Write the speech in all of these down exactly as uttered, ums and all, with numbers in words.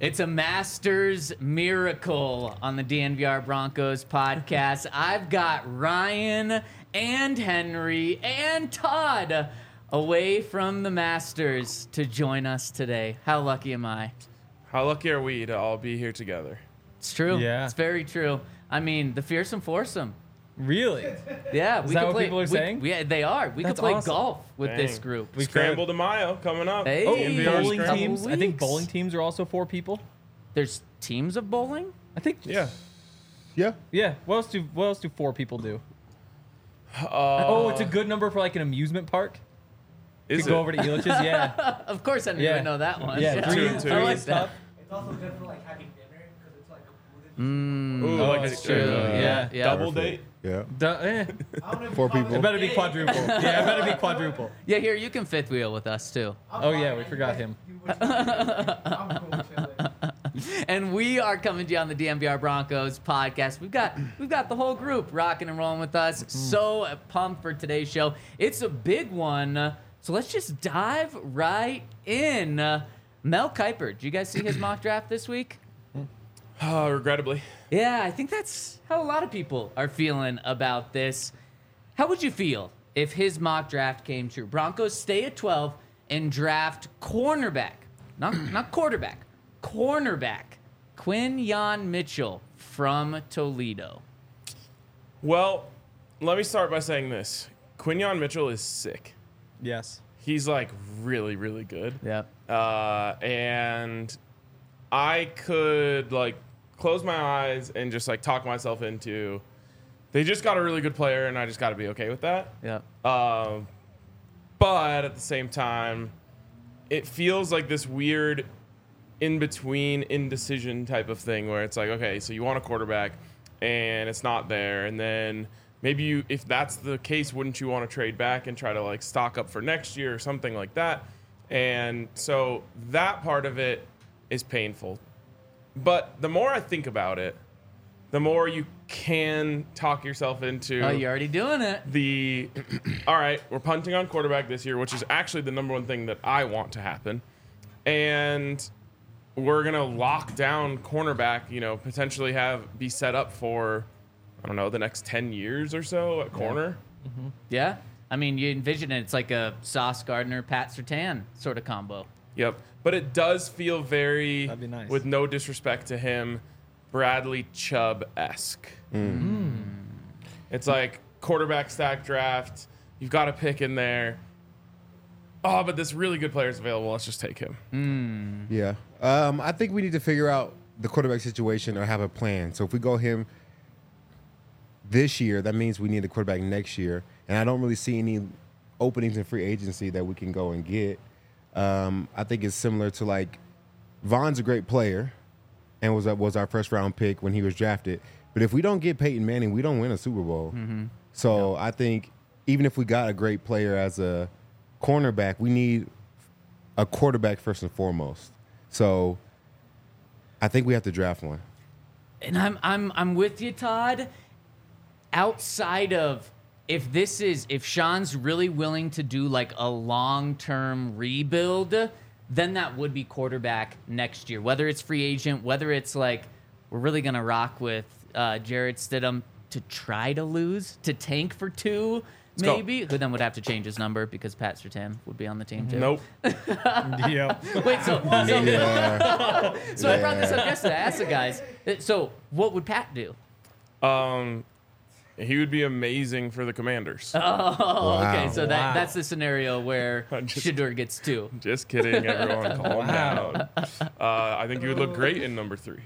It's a Masters miracle on the D N V R Broncos podcast. I've got Ryan and Henry and Todd away from the Masters to join us today. How lucky am I? How lucky are we to all be here together? It's true. Yeah. It's very true. I mean, the fearsome foursome. Really? Yeah, Is we that could what play, people are we- saying? We, yeah, they are. We That's could play awesome. golf with Dang. this group. We Scramble to Mayo coming up. Hey. Oh, D N V R bowling Scramble. teams. I think Weeks. bowling teams are also four people. There's teams of bowling? I think. Yeah. Yeah. Yeah. What else do What else do four people do? Uh, oh, it's a good number for like an amusement park. is Could go it? over to Elitch's. Yeah. Of course, I didn't Yeah. even know that one. Yeah. Two Three, and two. three I like is that. tough. It's also good for like having dinner because it's like a food. Mm, Ooh, Oh, like that's a, true. uh, Yeah. yeah. Double Perfect. date. Yeah. Duh, eh. I don't know if Four you call people. It a better be date. quadruple. Yeah, it better be quadruple. Yeah, here, you can fifth wheel with us, too. I'm Oh, fine, yeah, man. we You forgot guys him. do what you do. I'm cool chilling. And we are coming to you on the D N V R Broncos podcast. We've got we've got the whole group rocking and rolling with us. So pumped for today's show. It's a big one. So let's just dive right in. Uh, Mel Kiper, did you guys see his mock draft this week? Uh, regrettably. Yeah, I think that's how a lot of people are feeling about this. How would you feel if his mock draft came true? Broncos stay at twelve and draft cornerback, not not quarterback, cornerback, Quinyon Mitchell from Toledo. Well, let me start by saying this. Quinyon Mitchell is sick. Yes. He's like really, really good. Yep. Uh, and I could like close my eyes and just like talk myself into they just got a really good player and I just got to be okay with that. Yep. Um, but at the same time, it feels like this weird in between indecision type of thing where it's like, okay, so you want a quarterback and it's not there. And then maybe you, if that's the case, wouldn't you want to trade back and try to like stock up for next year or something like that? And so that part of it is painful. But the more I think about it, the more you can talk yourself into Oh, you're already doing it. the all right, we're punting on quarterback this year, which is actually the number one thing that I want to happen. And we're going to lock down cornerback, you know, potentially have be set up for, I don't know, the next ten years or so at corner. Yeah. I mean, you envision it. It's like a Sauce Gardner, Pat Surtain sort of combo. Yep. But it does feel very, That'd be nice. with no disrespect to him, Bradley Chubb-esque. It's like quarterback stack draft. You've got a pick in there. Oh, but this really good player is available. Let's just take him. Yeah. Um, I think we need to figure out the quarterback situation or have a plan. So if we go him this year, that means we need a quarterback next year. And I don't really see any openings in free agency that we can go and get. Um, I think it's similar to like Von's a great player and was was our first round pick when he was drafted. But if we don't get Peyton Manning, we don't win a Super Bowl. So I think even if we got a great player as a cornerback, we need a quarterback first and foremost. So I think we have to draft one. And I'm I'm I'm with you, Todd. Outside of if this is if Sean's really willing to do like a long-term rebuild, then that would be quarterback next year. Whether it's free agent, whether it's like we're really gonna rock with uh, Jarrett Stidham to try to lose, to tank for two, go. maybe. Who then would have to change his number because Pat Surtain would be on the team too. Nope. Yeah. Wait, so so, Yeah. so I brought this up yesterday. I asked the guys. uh, So what would Pat do? Um, he would be amazing for the Commanders. Oh, okay. Wow. So that Wow. that's the scenario where I'm just- Shador gets two. Just kidding, everyone. Calm Wow. down. Uh, I think he would look great in number three.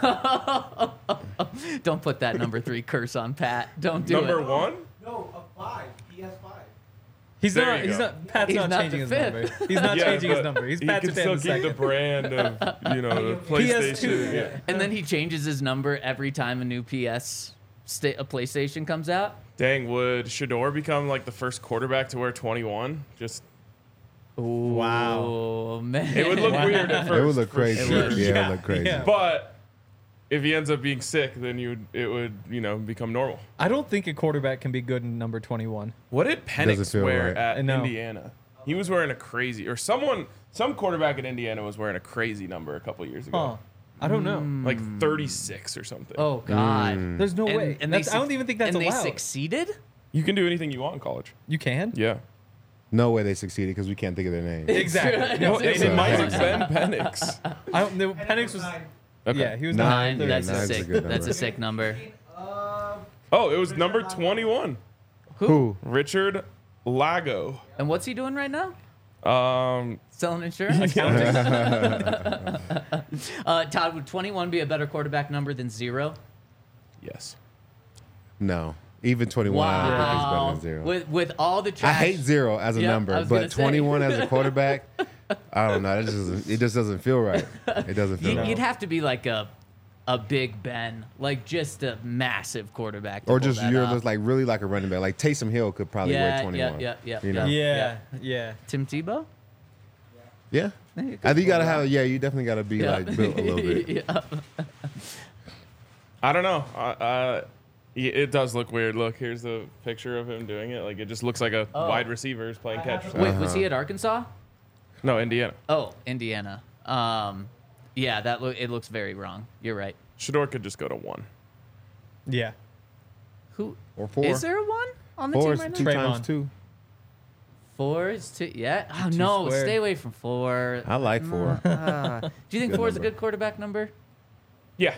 Don't put that number three curse on Pat. Don't do number it. one? No, a five. He has five. He's There not. you He's go. not. Pat's He's not not changing the his fifth. number. He's not changing his but number. He's he Pat can Surtain still the keep the second. brand of, you know, the P S two, PlayStation. yeah. And then he changes his number every time a new P S sta- a PlayStation comes out. Dang, would Shador become like the first quarterback to wear twenty-one? Just Wow. Oh man, it would look weird at first. It would look for crazy. sure. Yeah, it Yeah, would look crazy. yeah. But if he ends up being sick, then you would, it would, you know, become normal. I don't think a quarterback can be good in number twenty-one. What did Doesn't Penix feel wear right. I at know. Indiana? He was wearing a crazy, or someone Some quarterback in Indiana was wearing a crazy number a couple years ago. Huh. I don't know. Like thirty-six or something. Oh God. There's no And- way. and they That's- I don't suc- even think that's and allowed. they succeeded. You can do anything you want in college. You can? Yeah. No way they succeeded because we can't think of their name. Exactly. No, It's it a- might it's have been Penix. I don't know. Penix was. Nine. Okay. Yeah, he was Nine, nine. yeah, That's a nine's a sick. good That's number. a sick number. Uh, Oh, it was number twenty-one. Who? Richard Lago. And what's he doing right now? Um, Selling insurance. Accounting. uh, Todd, would twenty-one be a better quarterback number than zero? yes. No. Even twenty-one, I don't think is better Wow. than zero. With with all the I trash. hate zero as a Yeah, I number, was gonna but say. twenty-one as a quarterback, I don't know. It just doesn't, it just doesn't feel right. It doesn't feel You, right. You'd have to be like a a Big Ben, like just a massive quarterback. To Or pull just that you're off. just like really like a running back. Like Taysom Hill could probably Yeah, wear yeah, twenty-one. yeah, yeah, You know? Yeah, yeah. Tim Tebow. Yeah. Yeah, you I could think you pull gotta that. have. Yeah, you definitely gotta be Yeah. like built a little bit. Yeah. I don't know. Uh, uh, y- it does look weird. Look, here's the picture of him doing it. Like it just looks like a Oh. wide receiver is playing catch. or something. Wait, was Uh-huh. he at Arkansas? No, Indiana. Oh, Indiana. Um, yeah, that lo- it looks very wrong. You're right. Shador could just go to one. Yeah. Who Or four. is there a one on the Four team is right two now? Draymond. times two. Four is two. Yeah. Oh Two no, squared. stay away from four. I like four. Ah. Do you think Good four is a number. good quarterback number? Yeah.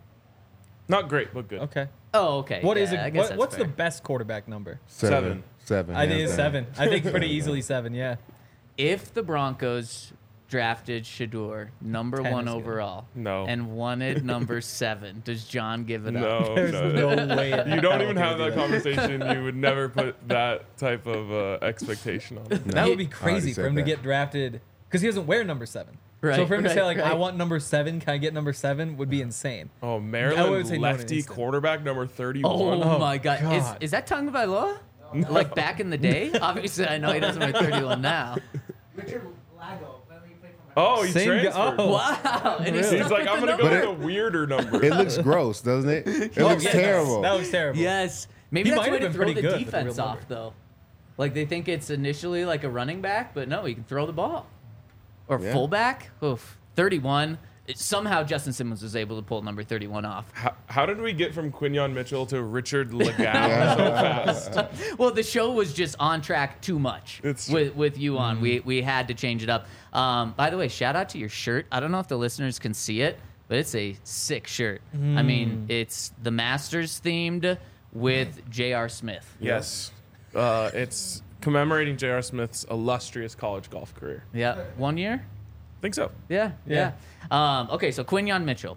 Not great, but good. Okay. Oh, okay. What yeah, is I it? guess What, that's what's the fair. best quarterback number? Seven. Seven. I think hands it's down. seven. I think pretty easily seven. Yeah. If the Broncos drafted Shador number Ten one is good. overall, No. and wanted number seven, does John give it up? No, There's no. no way. in You hell don't he even would have do that conversation. You would never put that type of uh, expectation on it. That would be I crazy already for said him to that. get drafted because he doesn't wear number seven. Right, So for him to say right, like, "I right. want number seven, can I get number seven?" would be insane. Oh, I would Maryland say no in an lefty instant. quarterback number thirty-one. Oh, Oh, my God. God. Is, is that Tonga Bailoa? Like back in the day? Obviously, I know he doesn't wear thirty-one now. Richard Lago. When we played for Oh, he Same guy- transferred. oh. Wow. And he's, Really? He's stuck like, with I'm the going to go number. with a weirder number. It looks gross, doesn't it? It Oh, looks yes. terrible. That was terrible. Yes. Maybe He that's might a way have to been throw pretty the good with the real defense off, number. though. Like they think it's initially like a running back, but no, he can throw the ball. Or Yeah. fullback. Oof. thirty-one. It- somehow Justin Simmons was able to pull number thirty-one off. How, how did we get from Quinion Mitchell to Richard Legau so fast? Well, the show was just on track too much It's true. with with you on. We we had to change it up. Um, by the way, shout out to your shirt. I don't know if the listeners can see it, but it's a sick shirt. I mean, it's the Masters themed with J R. Smith. Yes. Uh, it's commemorating J R. Smith's illustrious college golf career. Yeah, one year. I think so. Yeah, yeah. Um, okay, so Quinion Mitchell.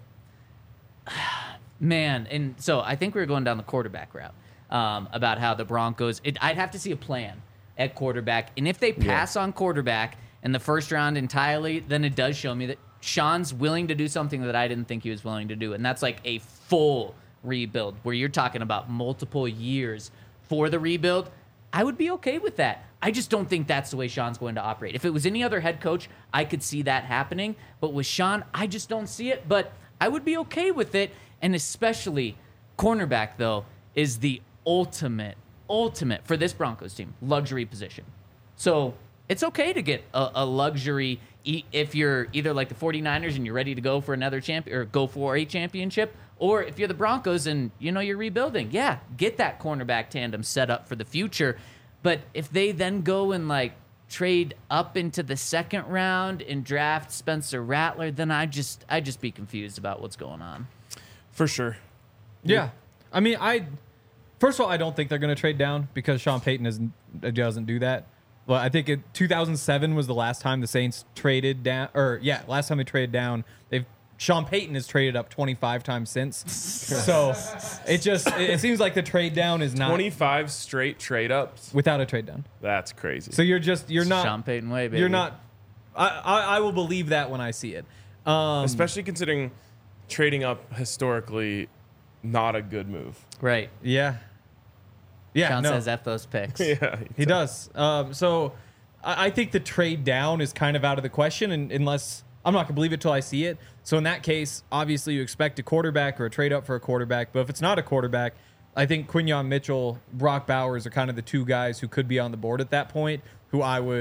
Man, and so I think we were going down the quarterback route um, about how the Broncos. It, I'd have to see a plan at quarterback, and if they pass on quarterback in the first round entirely, then it does show me that Sean's willing to do something that I didn't think he was willing to do, and that's like a full rebuild where you're talking about multiple years for the rebuild. I would be okay with that. I just don't think that's the way Sean's going to operate. If it was any other head coach, I could see that happening. But with Sean, I just don't see it. But I would be okay with it. And especially cornerback, though, is the ultimate, ultimate, for this Broncos team, luxury position. So it's okay to get a, a luxury e- if you're either like the 49ers and you're ready to go for another champion or go for a championship, or if you're the Broncos and you know you're rebuilding. Yeah, get that cornerback tandem set up for the future. But if they then go and like trade up into the second round and draft Spencer Rattler, then I just I just be confused about what's going on. For sure. Yeah. I mean, I first of all, I don't think they're going to trade down because Sean Payton isn't, doesn't do that. Well, I think in two thousand seven was the last time the Saints traded down, or yeah, last time they traded down. They've Sean Payton has traded up twenty-five times since. So it just it, it seems like the trade down is not twenty-five straight trade ups. without a trade down. That's crazy. So you're just you're not Sean Payton way, baby. you're not. I, I I will believe that when I see it. Um, Especially considering trading up historically not a good move. right. yeah. Yeah. Sean no. says F those picks. Yeah. He does. Um, so I, I think the trade down is kind of out of the question, and unless I'm not gonna believe it till I see it. So in that case, obviously you expect a quarterback or a trade up for a quarterback. But if it's not a quarterback, I think Quinion Mitchell, Brock Bowers are kind of the two guys who could be on the board at that point. Who I would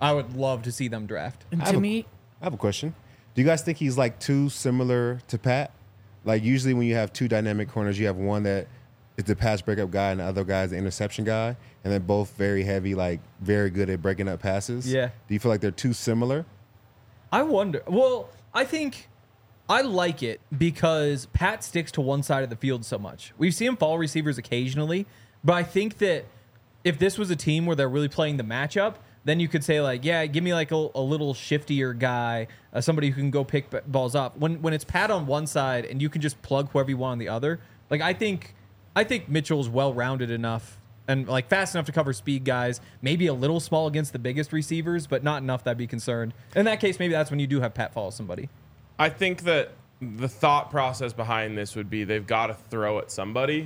I would love to see them draft. And I have to a- me, I have a question. Do you guys think he's like too similar to Pat? Like usually when you have two dynamic corners, you have one that is the pass breakup guy and the other guy is the interception guy, and they're both very heavy, like very good at breaking up passes. Yeah. Do you feel like they're too similar? I wonder. Well, I think I like it because Pat sticks to one side of the field so much. We've seen him follow receivers occasionally, but I think that if this was a team where they're really playing the matchup, then you could say like, yeah, give me like a, a little shiftier guy, uh, somebody who can go pick b- balls up. When when it's Pat on one side and you can just plug whoever you want on the other, like I think I think Mitchell's well-rounded enough and like fast enough to cover speed guys, maybe a little small against the biggest receivers, but not enough that I'd be concerned. In that case, maybe that's when you do have Pat follow somebody. I think that the thought process behind this would be they've got to throw at somebody,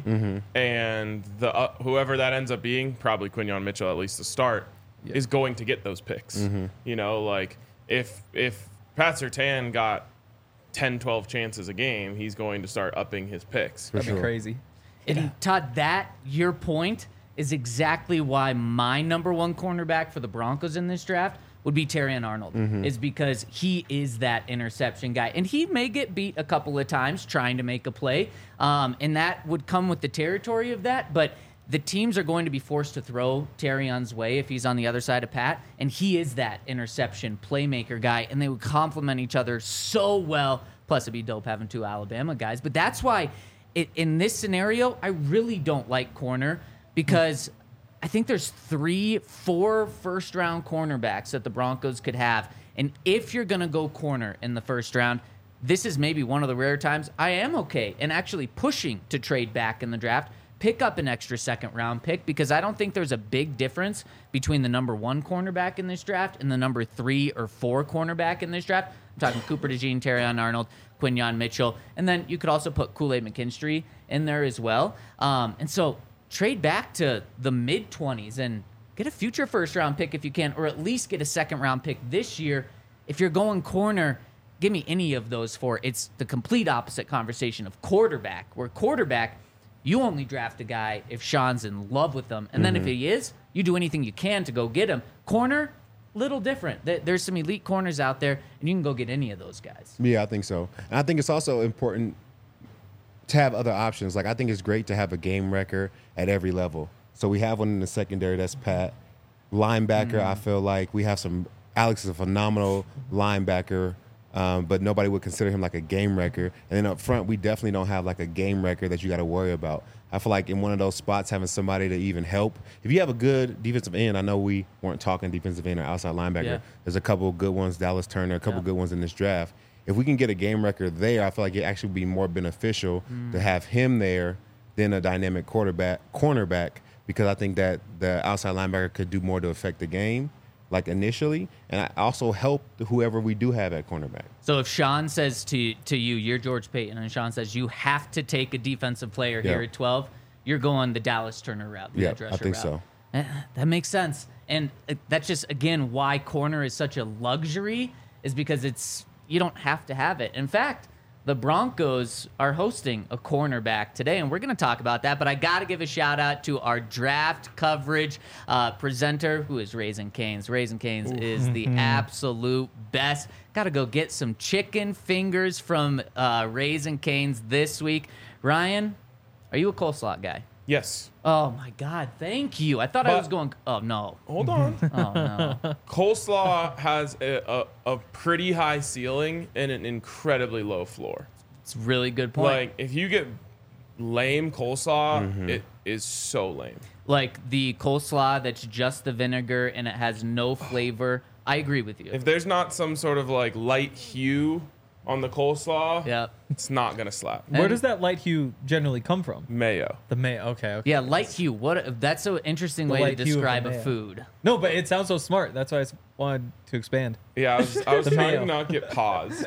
and the uh, whoever that ends up being, probably Quinyon Mitchell at least to start, Yeah. is going to get those picks. You know, like if if Pat Surtain got ten, twelve chances a game, he's going to start upping his picks. That'd sure. be crazy. and Todd, that your point is exactly why my number one cornerback for the Broncos in this draft would be Terrion Arnold, is because he is that interception guy. And he may get beat a couple of times trying to make a play, um, and that would come with the territory of that. But the teams are going to be forced to throw Terrion's way if he's on the other side of Pat, and he is that interception playmaker guy, and they would complement each other so well. Plus, it'd be dope having two Alabama guys. But that's why it, in this scenario, I really don't like corner because I think there's three, four first-round cornerbacks that the Broncos could have. And if you're going to go corner in the first round, this is maybe one of the rare times I am okay and actually pushing to trade back in the draft, pick up an extra second-round pick, because I don't think there's a big difference between the number one cornerback in this draft and the number three or four cornerback in this draft. I'm talking Cooper DeJean, Terrion Arnold, Quinyon Mitchell, and then you could also put Kool-Aid McKinstry in there as well. Um, and so trade back to the mid-twenties and get a future first-round pick if you can, or at least get a second-round pick this year. If you're going corner, give me any of those four. It's the complete opposite conversation of quarterback, where quarterback, you only draft a guy if Sean's in love with them. And then if he is, you do anything you can to go get him. Corner, little different. There- There's some elite corners out there, and you can go get any of those guys. Yeah, I think so. And I think it's also important to have other options. Like I think it's great to have a game wrecker at every level. So we have one in the secondary, that's Pat. Linebacker, I feel like we have some. Alex is a phenomenal linebacker, um, but nobody would consider him like a game wrecker. And then up front, we definitely don't have like a game wrecker that you got to worry about. I feel like in one of those spots, having somebody to even help. If you have a good defensive end, I know we weren't talking defensive end or outside linebacker. Yeah. There's a couple of good ones, Dallas Turner, a couple Yeah. good ones in this draft. If we can get a game wrecker there, I feel like it actually would be more beneficial to have him there than a dynamic quarterback, cornerback, because I think that the outside linebacker could do more to affect the game, like initially, and I also help whoever we do have at cornerback. So if Sean says to to you, you're George Payton, and Sean says you have to take a defensive player Yeah. here at twelve, you're going the Dallas Turner route, the Yeah, edge I rusher think route. so. Eh, That makes sense. And uh, that's just, again, why corner is such a luxury, is because it's you don't have to have it. In fact, the Broncos are hosting a cornerback today, and we're going to talk about that. But I got to give a shout out to our draft coverage uh, presenter, who is Raising Cane's. Raising Cane's is the absolute best. Got to go get some chicken fingers from uh, Raising Cane's this week. Ryan, are you a coleslaw guy? Yes. Oh my God! Thank you. I thought I But- was going. Oh no! Hold on. Oh no! Coleslaw has a, a, a pretty high ceiling and an incredibly low floor. It's a really good point. Like, if you get lame coleslaw, Mm-hmm. it is so lame. Like the coleslaw that's just the vinegar and it has no flavor. I agree with you. If there's not some sort of like light hue on the coleslaw, Yep. it's not gonna slap. Where And- does that light hue generally come from? Mayo. The mayo. Okay. Okay. Yeah, light hue. What? That's an interesting The way to light hue of the describe a mayo. food. No, but it sounds so smart. That's why I s- wanted to expand. Yeah, I was, I was The trying mayo. to not get paused.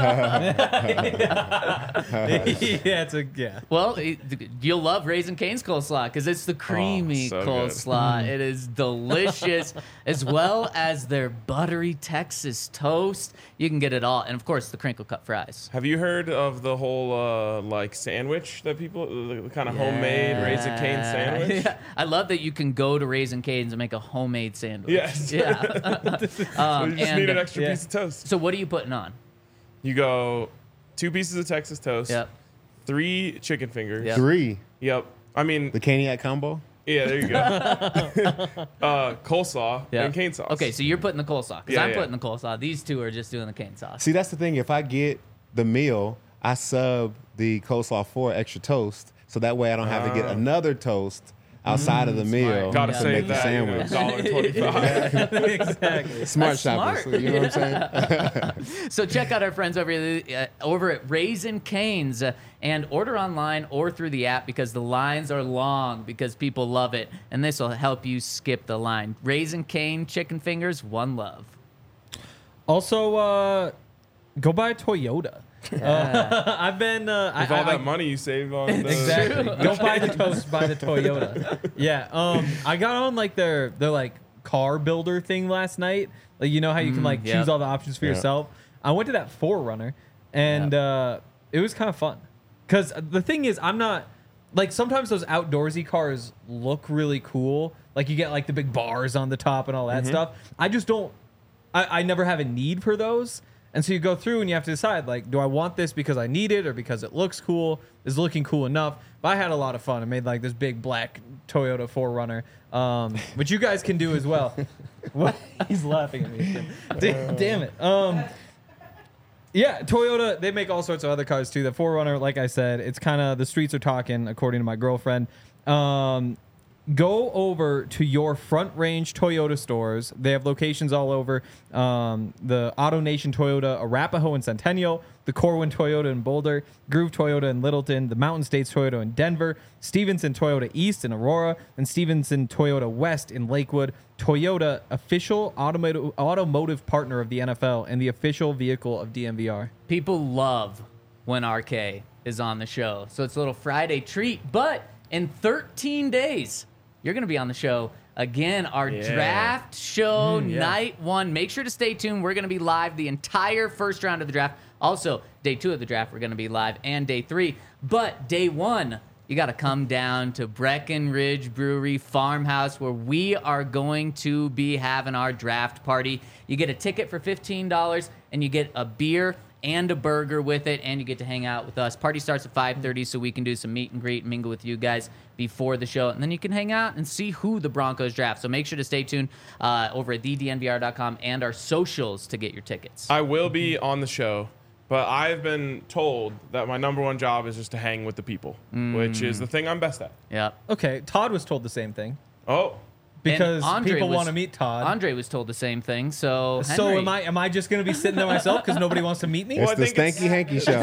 yeah, it's a yeah. Well, it- you'll love Raising Cane's coleslaw because it's the creamy so good. coleslaw. It is delicious, as well as their buttery Texas toast. You can get it all, and of course the crinkle cut fries. Have you heard of of the whole uh, like sandwich that people, the, the kind of homemade Raising Cane sandwich. Yeah. I love that you can go to Raising Cane's and make a homemade sandwich. Yes. Yeah. So um, you just and need an extra yeah. piece of toast. so what are you putting on? You go two pieces of Texas toast, Yep. three chicken fingers. Yep. Three. Yep. I mean, The Caniac combo. yeah, there you go. uh, coleslaw Yeah. and cane sauce. Okay, so you're putting the coleslaw because Yeah, I'm yeah. putting the coleslaw. These two are just doing the cane sauce. See, that's the thing. If I get the meal, I sub the coleslaw for extra toast, so that way I don't have to get Ah. another toast outside of the meal Gotta Yeah. to save make the that. sandwich. You know, one twenty-five. exactly. Smart That's shoppers. smart. You know what I'm saying? So check out our friends over uh, over at Raising Cane's uh, and order online or through the app because the lines are long because people love it, and this will help you skip the line. Raising Cane chicken fingers, one love. Also, uh, go buy a Toyota. Uh, I've been uh, With I, all I, that money you save on the Exactly. Go buy the toast, buy the Toyota. Yeah. Um, I got on like their their like car builder thing last night. Like you know how you can like yep. choose all the options for Yeah. yourself. I went to that four runner, and uh, it was kind of fun. Cause the thing is, I'm not like sometimes those outdoorsy cars look really cool. Like you get like the big bars on the top and all that stuff. I just don't. I, I never have a need for those. And so you go through and you have to decide, like, do I want this because I need it or because it looks cool? Is it looking cool enough? But I had a lot of fun. I made like this big black Toyota four runner, um, which you guys can do as well. What? He's laughing at me. Da- Damn it. Um, yeah, Toyota, they make all sorts of other cars too. The four runner, like I said, it's kind of, the streets are talking, according to my girlfriend. Um, Go over to your Front Range Toyota stores. They have locations all over. Um, the Auto Nation Toyota, Arapahoe and Centennial, the Corwin Toyota in Boulder, Groove Toyota in Littleton, the Mountain States Toyota in Denver, Stevenson Toyota East in Aurora, and Stevenson Toyota West in Lakewood. Toyota, official automotive, automotive partner of the N F L and the official vehicle of D M V R. People love when R K is on the show. So it's a little Friday treat. But in thirteen days, you're going to be on the show again. Our Yeah. draft show, yeah. night one. Make sure to stay tuned. We're going to be live the entire first round of the draft. Also, day two of the draft, we're going to be live, and day three. But day one, you got to come down to Breckenridge Brewery Farmhouse, where we are going to be having our draft party. You get a ticket for fifteen dollars, and you get a beer and a burger with it, and you get to hang out with us. Party starts at five thirty, so we can do some meet and greet and mingle with you guys before the show, and then you can hang out and see who the Broncos draft. So make sure to stay tuned uh, over at the d n v r dot com and our socials to get your tickets. I will be on the show, but I've been told that my number one job is just to hang with the people, which is the thing I'm best at. Yep. Okay, Todd was told the same thing Oh, because And Andre people was- want to meet Todd. Andre was told the same thing, so So Henry- am I? Am I just going to be sitting there myself because nobody wants to meet me? Well, It's I the think it's- Stanky Hanky Show.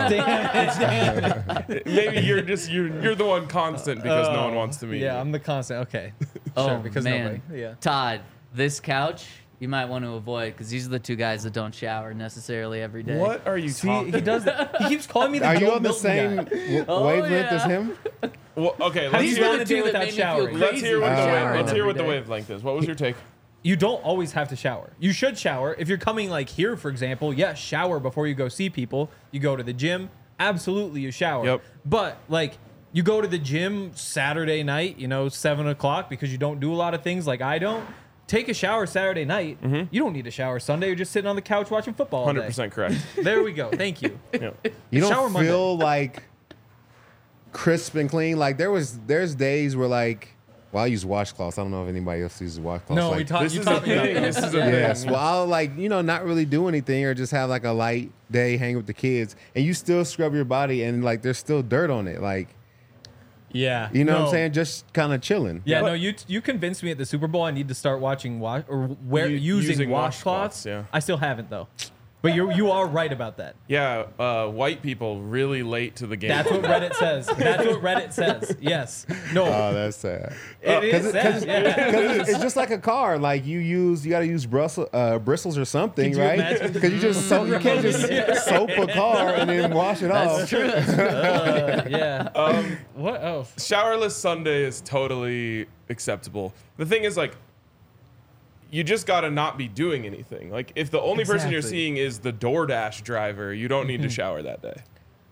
Damn it. maybe you're just you're you're the one constant because no one wants to meet Yeah, you. I'm the constant. Okay. Oh, sure, because man. nobody. Yeah. Todd, this couch you might want to avoid because these are the two guys that don't shower necessarily every day. What are you See, talking? he does that. He keeps calling me the Are you Joe on the Milton same guy. w- Oh, wavelength yeah. as him? Well, okay, How let's do you These hear, are wanna the do two that without made me feel showering? crazy. let's hear what the Uh, wave, showering let's hear every what the day. wavelength is. What was your take? You don't always have to shower. You should shower. If you're coming like here, for example, yes, shower before you go see people. You go to the gym, absolutely you shower. Yep. But like you go to the gym Saturday night, you know, seven o'clock because you don't do a lot of things like I don't. Take a shower Saturday night. You don't need a shower Sunday. You're just sitting on the couch watching football all Hundred day. percent correct. There we go. Thank you. Yeah. You don't Shower Monday. feel like crisp and clean. Like there was, there's days where like, well, I use washcloths. I don't know if anybody else uses washcloths. No, like, we taught This you is a taught me about thing. that. This is a Yes. thing. Well, I'll like, you know, not really do anything or just have like a light day, hang with the kids, and you still scrub your body and like there's still dirt on it. Like, Yeah. you know what No. I'm saying? Just kind of chilling. Yeah, no, you you convinced me at the Super Bowl I need to start watching wash or wear U- using, using washcloths. washcloths, yeah. I still haven't though. But you you are right about that. Yeah, uh, white people really late to the game. That's what Reddit says. That's what Reddit says. Yes. No. Oh, that's sad. it Because is sad. Yeah. it's, it's just like a car. Like you use, you got to use bristles, uh, bristles or something, Could you right? imagine? Because you just soap, you can't just soap a car and then wash it off. True. Uh, yeah. Um, what else? Showerless Sunday is totally acceptable. The thing is, like, you just got to not be doing anything. Like, if the only person you're Exactly. seeing is the DoorDash driver, you don't need to shower that day.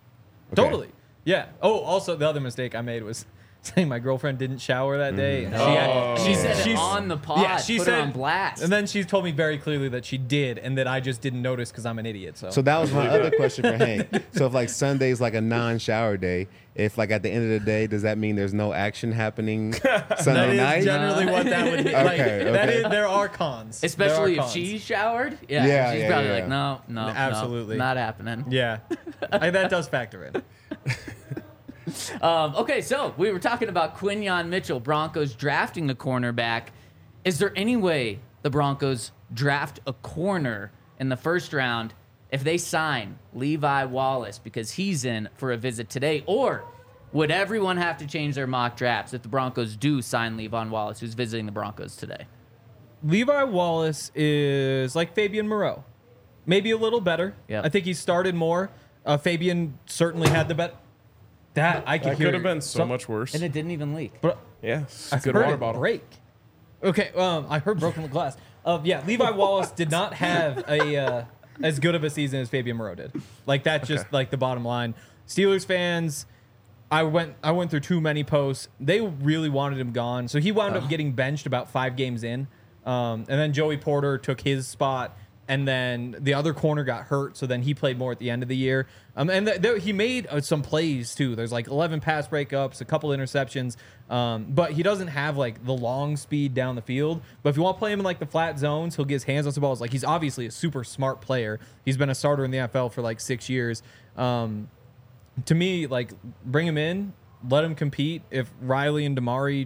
Okay. Totally. Yeah. Oh, also the other mistake I made was saying my girlfriend didn't shower that day. And Oh. She said it she's- on the pod. Yeah, she put said it on blast. And then she told me very clearly that she did, and that I just didn't notice because I'm an idiot. So, So that was my other question for Hank. So if like Sunday's like a non-shower day, if like at the end of the day, does that mean there's no action happening that Sunday is night? generally what that would be. Like, Okay, That okay. is, there are cons. There Especially are if cons. she showered. Yeah. Yeah, she's yeah, probably yeah. like, no, no, no, Absolutely. not happening. Yeah, I, that does factor in. Um, okay, so we were talking about Quinyon Mitchell, Broncos drafting a cornerback. Is there any way the Broncos draft a corner in the first round if they sign Levi Wallace because he's in for a visit today? Or would everyone have to change their mock drafts if the Broncos do sign Levi Wallace, who's visiting the Broncos today? Levi Wallace is like Fabian Moreau, maybe a little better. Yep. I think he started more. Uh, Fabian certainly had the bet. That I could That hear. could have been so some- much worse. And it didn't even leak. But Yeah, I good heard water it bottle. break. Okay, um, I heard broken glass. Uh, yeah, Levi Wallace did not have a uh, as good of a season as Fabian Moreau did. Like that's just Okay. like the bottom line. Steelers fans, I went I went through too many posts. They really wanted him gone, so he wound up getting benched about five games in, um, and then Joey Porter took his spot. And then the other corner got hurt, so then he played more at the end of the year. Um, and th- th- he made uh, some plays too. There's like eleven pass breakups, a couple interceptions, um, but he doesn't have like the long speed down the field. But if you want to play him in like the flat zones, he'll get his hands on some balls. Like he's obviously a super smart player. He's been a starter in the N F L for like six years. Um, to me, like bring him in, let him compete. If Riley and Damari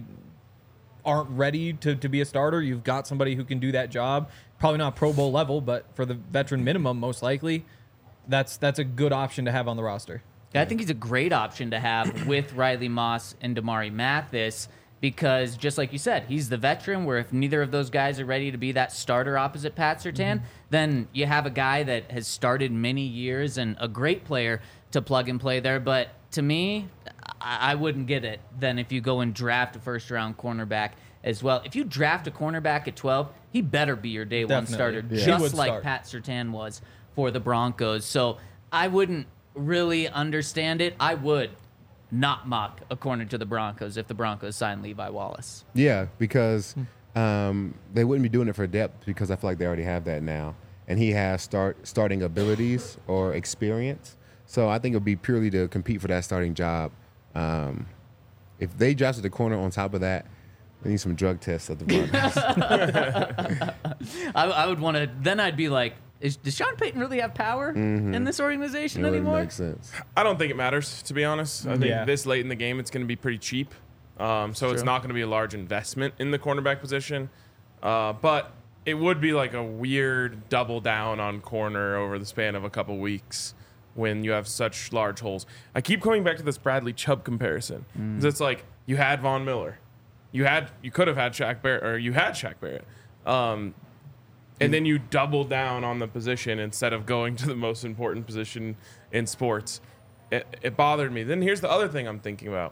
aren't ready to, to be a starter, you've got somebody who can do that job. Probably not Pro Bowl level, but for the veteran minimum, most likely, that's that's a good option to have on the roster. I think he's a great option to have with Riley Moss and Damari Mathis because, just like you said, he's the veteran where if neither of those guys are ready to be that starter opposite Pat Surtain, then you have a guy that has started many years and a great player to plug and play there. But to me, I, I wouldn't get it then if you go and draft a first-round cornerback as well. If you draft a cornerback at twelve, he better be your day one Definitely. starter, Yeah. He just would like start. Pat Surtain was for the Broncos. So I wouldn't really understand it. I would not mock a corner to the Broncos if the Broncos sign Levi Wallace. Yeah, because um, they wouldn't be doing it for depth because I feel like they already have that now, and he has start starting abilities or experience. So I think it would be purely to compete for that starting job. Um, if they drafted the corner on top of that, they need some drug tests at the Broncos. I, I would want to. Then I'd be like, is, does Sean Payton really have power in this organization It wouldn't anymore? make sense. I don't think it matters, to be honest. I think Yeah. this late in the game, it's going to be pretty cheap. Um, so it's True. not going to be a large investment in the cornerback position. Uh, but it would be like a weird double down on corner over the span of a couple weeks when you have such large holes. I keep coming back to this Bradley Chubb comparison. 'Cause It's like you had Von Miller. You had you could have had Shaq Barrett, or you had Shaq Barrett. Um, and then you double down on the position instead of going to the most important position in sports. It, it bothered me. Then here's the other thing I'm thinking about.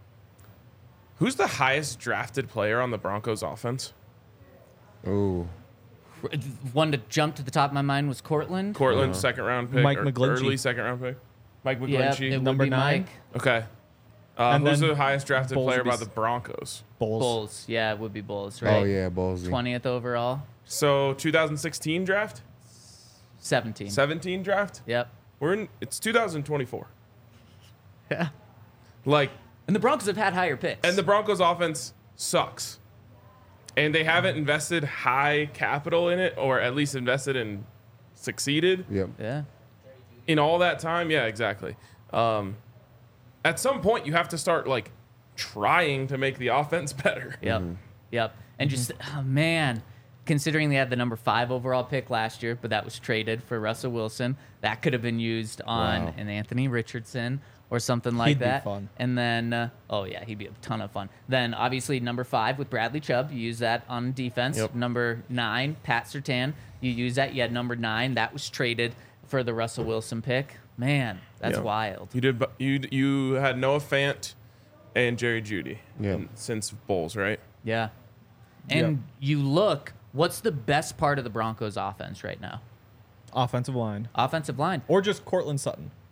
Who's the highest drafted player on the Broncos offense? Ooh, One to jump to the top of my mind was Cortland. Cortland, second round pick. Mike or McGlinchey. Early second round pick. Mike Yeah, McGlinchey. it would Number be nine. Mike. Okay. Uh, And who's then the highest drafted Bowles player would be by s- the Broncos? Bulls. Bulls. Yeah, it would be Bulls, right? oh yeah, Ballsy. twentieth overall. So twenty sixteen draft, seventeen. seventeen draft. Yep. We're in. It's two thousand twenty-four. Yeah. Like, And the Broncos have had higher picks. and the Broncos offense sucks, and they haven't invested high capital in it, or at least invested and succeeded Yep. yeah. in all that time. Yeah, exactly. Um, at some point, you have to start like trying to make the offense better. Yep. Yep. And just, oh, man, considering they had the number five overall pick last year, but that was traded for Russell Wilson, that could have been used on Wow. an Anthony Richardson or something like He'd be that. fun. And then, uh, oh, yeah, he'd be a ton of fun. Then, obviously, number five with Bradley Chubb, you use that on defense. Yep. Number nine, Pat Surtain, you use that. You had number nine. That was traded for the Russell Wilson pick. Man, that's Yeah. wild. You did. bu- You you had Noah Fant and Jerry Jeudy. Yeah. in- Since Bulls, right? Yeah. And you look, what's the best part of the Broncos offense right now? Offensive line. Offensive line. Or just Cortland Sutton.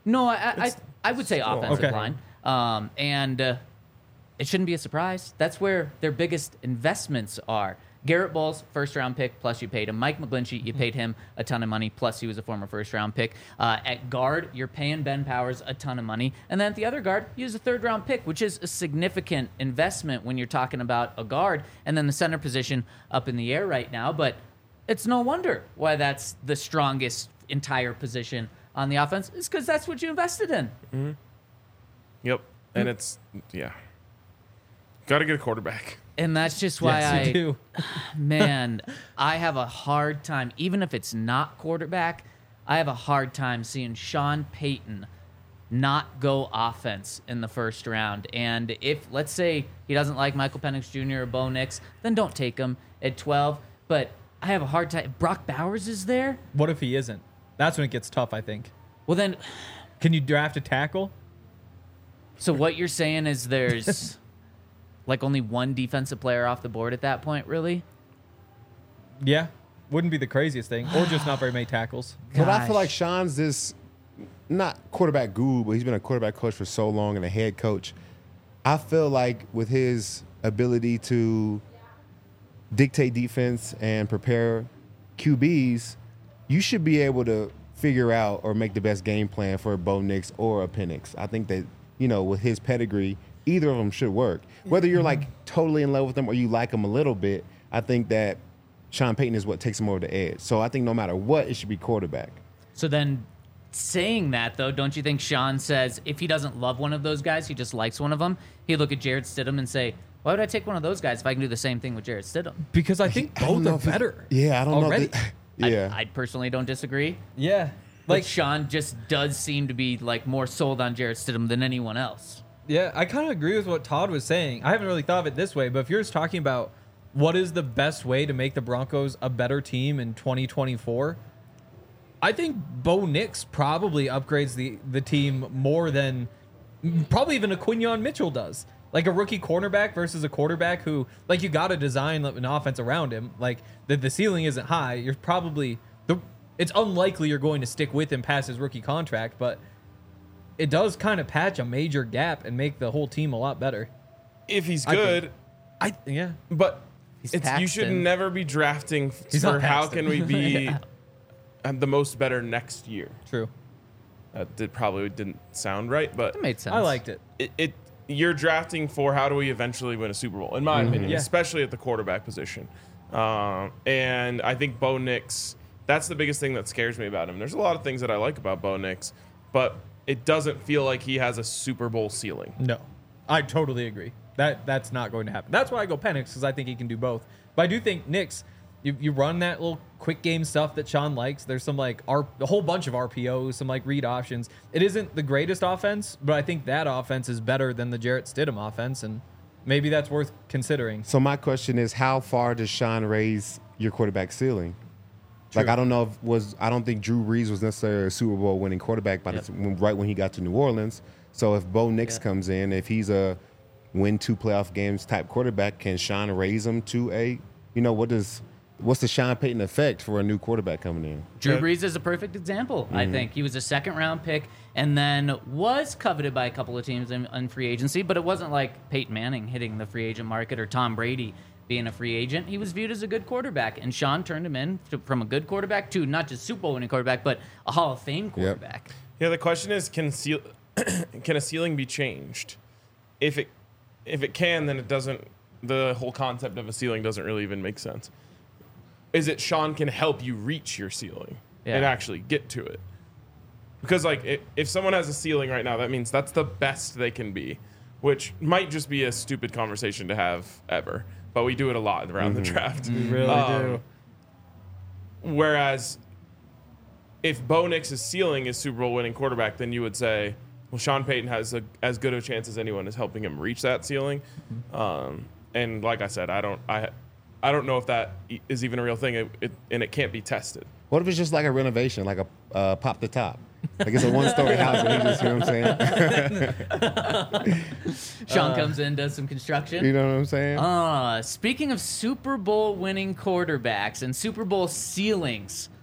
No, I I, I would say offensive Okay. line, um, and uh, it shouldn't be a surprise. That's where their biggest investments are. Garrett Bowles, first round pick, plus you paid him. Mike McGlinchey, you paid him a ton of money, plus he was a former first round pick. Uh, at guard, you're paying Ben Powers a ton of money. And then at the other guard, you use a third round pick, which is a significant investment when you're talking about a guard. And then the center position up in the air right now. But it's no wonder why that's the strongest entire position on the offense. It's because that's what you invested in. Yep. And it's, yeah. Got to get a quarterback. And that's just why Yes, I, you do. man, I have a hard time, even if it's not quarterback, I have a hard time seeing Sean Payton not go offense in the first round. And if, let's say, he doesn't like Michael Penix Junior or Bo Nix, then don't take him at twelve. But I have a hard time. If Brock Bowers is there, What if he isn't? That's when it gets tough, I think. well, then, Can you draft a tackle? so what you're saying is there's like only one defensive player off the board at that point, really? Yeah. Wouldn't be the craziest thing. Or just not very many tackles. But I feel Gosh. like Sean's this not quarterback guru, but he's been a quarterback coach for so long and a head coach. I feel like with his ability to dictate defense and prepare Q Bs, you should be able to figure out or make the best game plan for a Bo Nix or a Penix. I think that, you know, with his pedigree, either of them should work. Whether you're like totally in love with them or you like them a little bit, I think that Sean Payton is what takes him over the edge. So I think no matter what, it should be quarterback. So then, saying that though, don't you think Sean says if he doesn't love one of those guys, he just likes one of them? He'd look at Jarrett Stidham and say, "Why would I take one of those guys if I can do the same thing with Jarrett Stidham?" Because I think I don't both know are if it's- better. Yeah, I don't already. know. That, yeah. I, I personally don't disagree. Yeah. Like Like, Sean just does seem to be like more sold on Jarrett Stidham than anyone else. yeah, I kind of agree with what Todd was saying. I haven't really thought of it this way, but if you're just talking about what is the best way to make the Broncos a better team in twenty twenty-four, I think Bo Nix probably upgrades the, the team more than probably even a Quinyon Mitchell does. Like a rookie cornerback versus a quarterback who, like, you got to design an offense around him. Like, the, the ceiling isn't high. You're probably, the, it's unlikely you're going to stick with him past his rookie contract, but it does kind of patch a major gap and make the whole team a lot better. If he's I think- good, I yeah. but He's it's, you should Paxton. never be drafting f- He's for not how Paxton. can we be uh, the most better next year. True. That did probably didn't sound right, but That made sense. I liked it. it, it you're drafting for how do we eventually win a Super Bowl, in my opinion, Yeah. especially at the quarterback position. Um, and I think Bo Nix, that's the biggest thing that scares me about him. There's a lot of things that I like about Bo Nix, but it doesn't feel like he has a Super Bowl ceiling. No, I totally agree. That that's not going to happen. That's why I go Penix, because I think he can do both. But I do think Nix, you, you run that little quick game stuff that Sean likes. There's some like R, a whole bunch of R P Os, some like read options. It isn't the greatest offense, but I think that offense is better than the Jarrett Stidham offense, and maybe that's worth considering. So my question is, how far does Sean raise your quarterback ceiling? Like, I don't know if was I don't think Drew Brees was necessarily a Super Bowl winning quarterback by Yep. the, when, right when he got to New Orleans. So if Bo Nix Yeah. comes in, if he's a win two playoff games type quarterback, can Sean raise him to a, you know, what does what's the Sean Payton effect for a new quarterback coming in? Drew Yeah. Brees is a perfect example, I think. He was a second round pick and then was coveted by a couple of teams in, in free agency, but it wasn't like Peyton Manning hitting the free agent market or Tom Brady being a free agent. He was viewed as a good quarterback, and Sean turned him in to, from a good quarterback to not just Super Bowl winning quarterback, but a Hall of Fame quarterback. Yeah, the question is, can ceil- can a ceiling be changed? If it if it can, then it doesn't. The whole concept of a ceiling doesn't really even make sense. Is it Sean can help you reach your ceiling and Yeah. actually get to it? Because like if, if someone has a ceiling right now, that means that's the best they can be, which might just be a stupid conversation to have ever. But we do it a lot around the draft. We really Um, do. Whereas if Bo Nix's ceiling is Super Bowl winning quarterback, then you would say, well, Sean Payton has a, as good a chance as anyone is helping him reach that ceiling. Um, and like I said, I don't, I, I don't know if that e- is even a real thing, it, it, and it can't be tested. What if it's just like a renovation, like a uh, pop the top? Like it's a one story house and he just, you know what I'm saying? Sean comes in, does some construction. You know what I'm saying? Uh, speaking of Super Bowl winning quarterbacks and Super Bowl ceilings,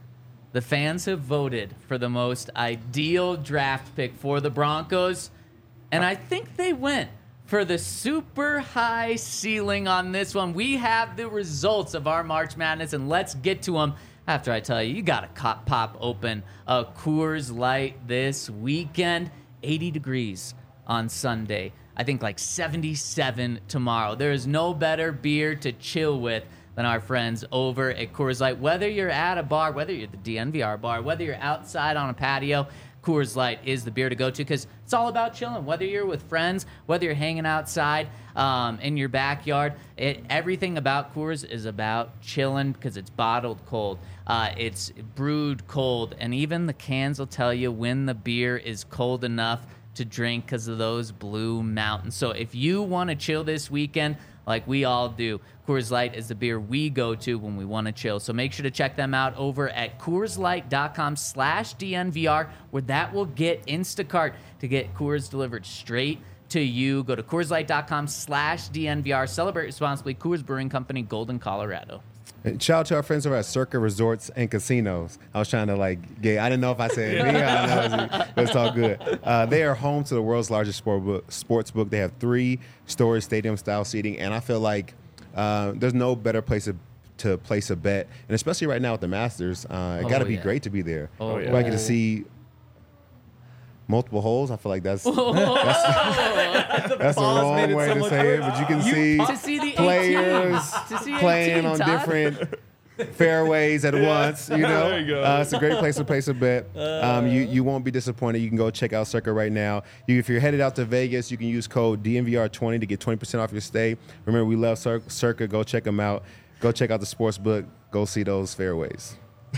the fans have voted for the most ideal draft pick for the Broncos, and I think they went for the super high ceiling on this one. We have the results of our March Madness, and let's get to them after I tell you, you got to pop open a Coors Light this weekend. eighty degrees on Sunday. I think like seventy-seven tomorrow. There is no better beer to chill with than our friends over at Coors Light. Whether you're at a bar, whether you're at the D N V R bar, whether you're outside on a patio, Coors Light is the beer to go to because it's all about chilling. Whether you're with friends, whether you're hanging outside um, in your backyard, it, everything about Coors is about chilling because it's bottled cold. Uh, it's brewed cold, and even the cans will tell you when the beer is cold enough to drink because of those Blue Mountains. So if you want to chill this weekend, like we all do, Coors Light is the beer we go to when we want to chill. So make sure to check them out over at CoorsLight.com slash DNVR, where that will get Instacart to get Coors delivered straight to you. Go to CoorsLight.com slash DNVR. Celebrate responsibly. Coors Brewing Company, Golden, Colorado. Shout out to our friends over at Circa Resorts and Casinos. I was trying to like get, I didn't know if I said me, I don't know, but it's all good. Uh, they are home to the world's largest sport book, sports book. They have three story stadium style seating, and I feel like uh, there's no better place to, to place a bet, and especially right now with the Masters, uh, it Oh, got to be yeah. great to be there. Oh, yeah. If I get to see multiple holes, I feel like that's that's, that's the pause made wrong it way so to much say it, worse. but you can You see To see the players eighteen. To see playing eighteen, on Todd. different fairways at once. You know, There you go. Uh, it's a great place to place a bet. Um, you you won't be disappointed. You can go check out Circa right now. You, if you're headed out to Vegas, you can use code D N V R twenty to get twenty percent off your stay. Remember, we love Cir- Circa. Go check them out. Go check out the sports book. Go see those fairways.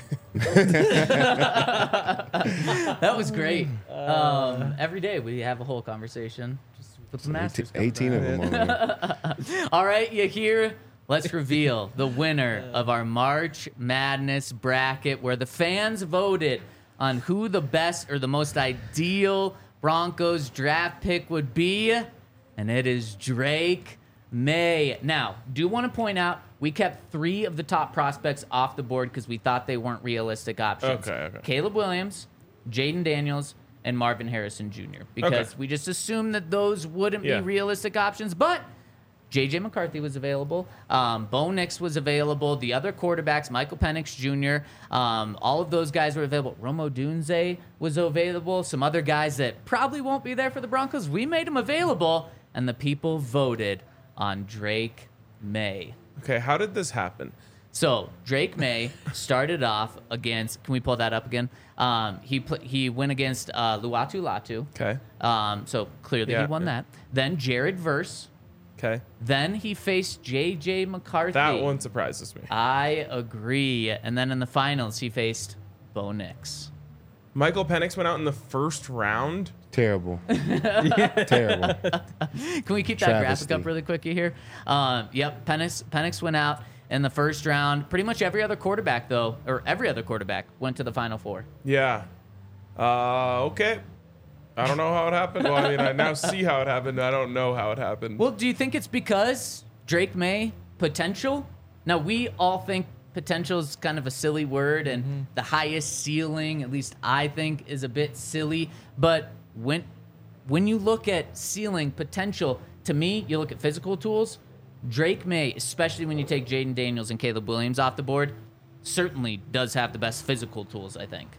That was great. Um, every day we have a whole conversation just with the Masters. eighteen, coming eighteen of them. On there. All right, you hear? Let's reveal the winner of our March Madness bracket, where the fans voted on who the best or the most ideal Broncos draft pick would be, and it is Drake May. Now, do want to point out we kept three of the top prospects off the board because we thought they weren't realistic options. Okay, okay. Caleb Williams, Jaden Daniels, and Marvin Harrison Junior Because Okay. we just assumed that those wouldn't Yeah. be realistic options, but J J McCarthy was available. Um, Bo Nix was available. The other quarterbacks, Michael Penix Junior, um, all of those guys were available. Romo Dunze was available. Some other guys that probably won't be there for the Broncos. We made them available, and the people voted on Drake May. Okay, how did this happen? So Drake May started off against. Can we pull that up again? Um, he pl- he went against uh, Luatu Latu. Okay, Um, so clearly Yeah, he won yeah. that. Then Jared Verse. okay. Then he faced J J McCarthy. That one surprises me. I agree. And then in the finals, he faced Bo Nix. Michael Penix went out in the first round. Terrible. Terrible. Can we keep that Travesty. graphic up really quickly here? Um, yep, Penix, Penix went out in the first round. Pretty much every other quarterback, though, or every other quarterback, went to the Final Four. Yeah. Uh, okay. I don't know how it happened. Well, I mean, I now see how it happened. I don't know how it happened. Well, do you think it's because Drake May potential? Now, we all think potential is kind of a silly word, and the highest ceiling, at least I think, is a bit silly. But when when you look at ceiling potential, to me, you look at physical tools. Drake May, especially when you take Jaden Daniels and Caleb Williams off the board, certainly does have the best physical tools, I think.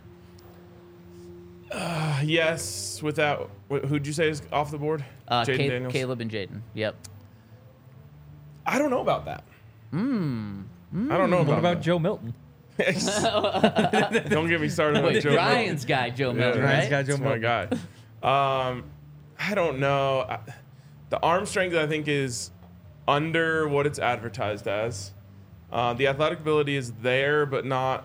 Yes, without wh- who'd you say is off the board? Uh, Jaden Ca- Daniels. Caleb and Jaden. Yep. I don't know about that. Hmm. I don't know What about, about that. Joe Milton? Don't get me started on Wait, Joe. Ryan's guy, Joe Milton, Yeah, right? Ryan's guy, Joe That's my Milton. guy. Um, I don't know. I, the arm strength, I think, is under what it's advertised as. Uh, the athletic ability is there, but not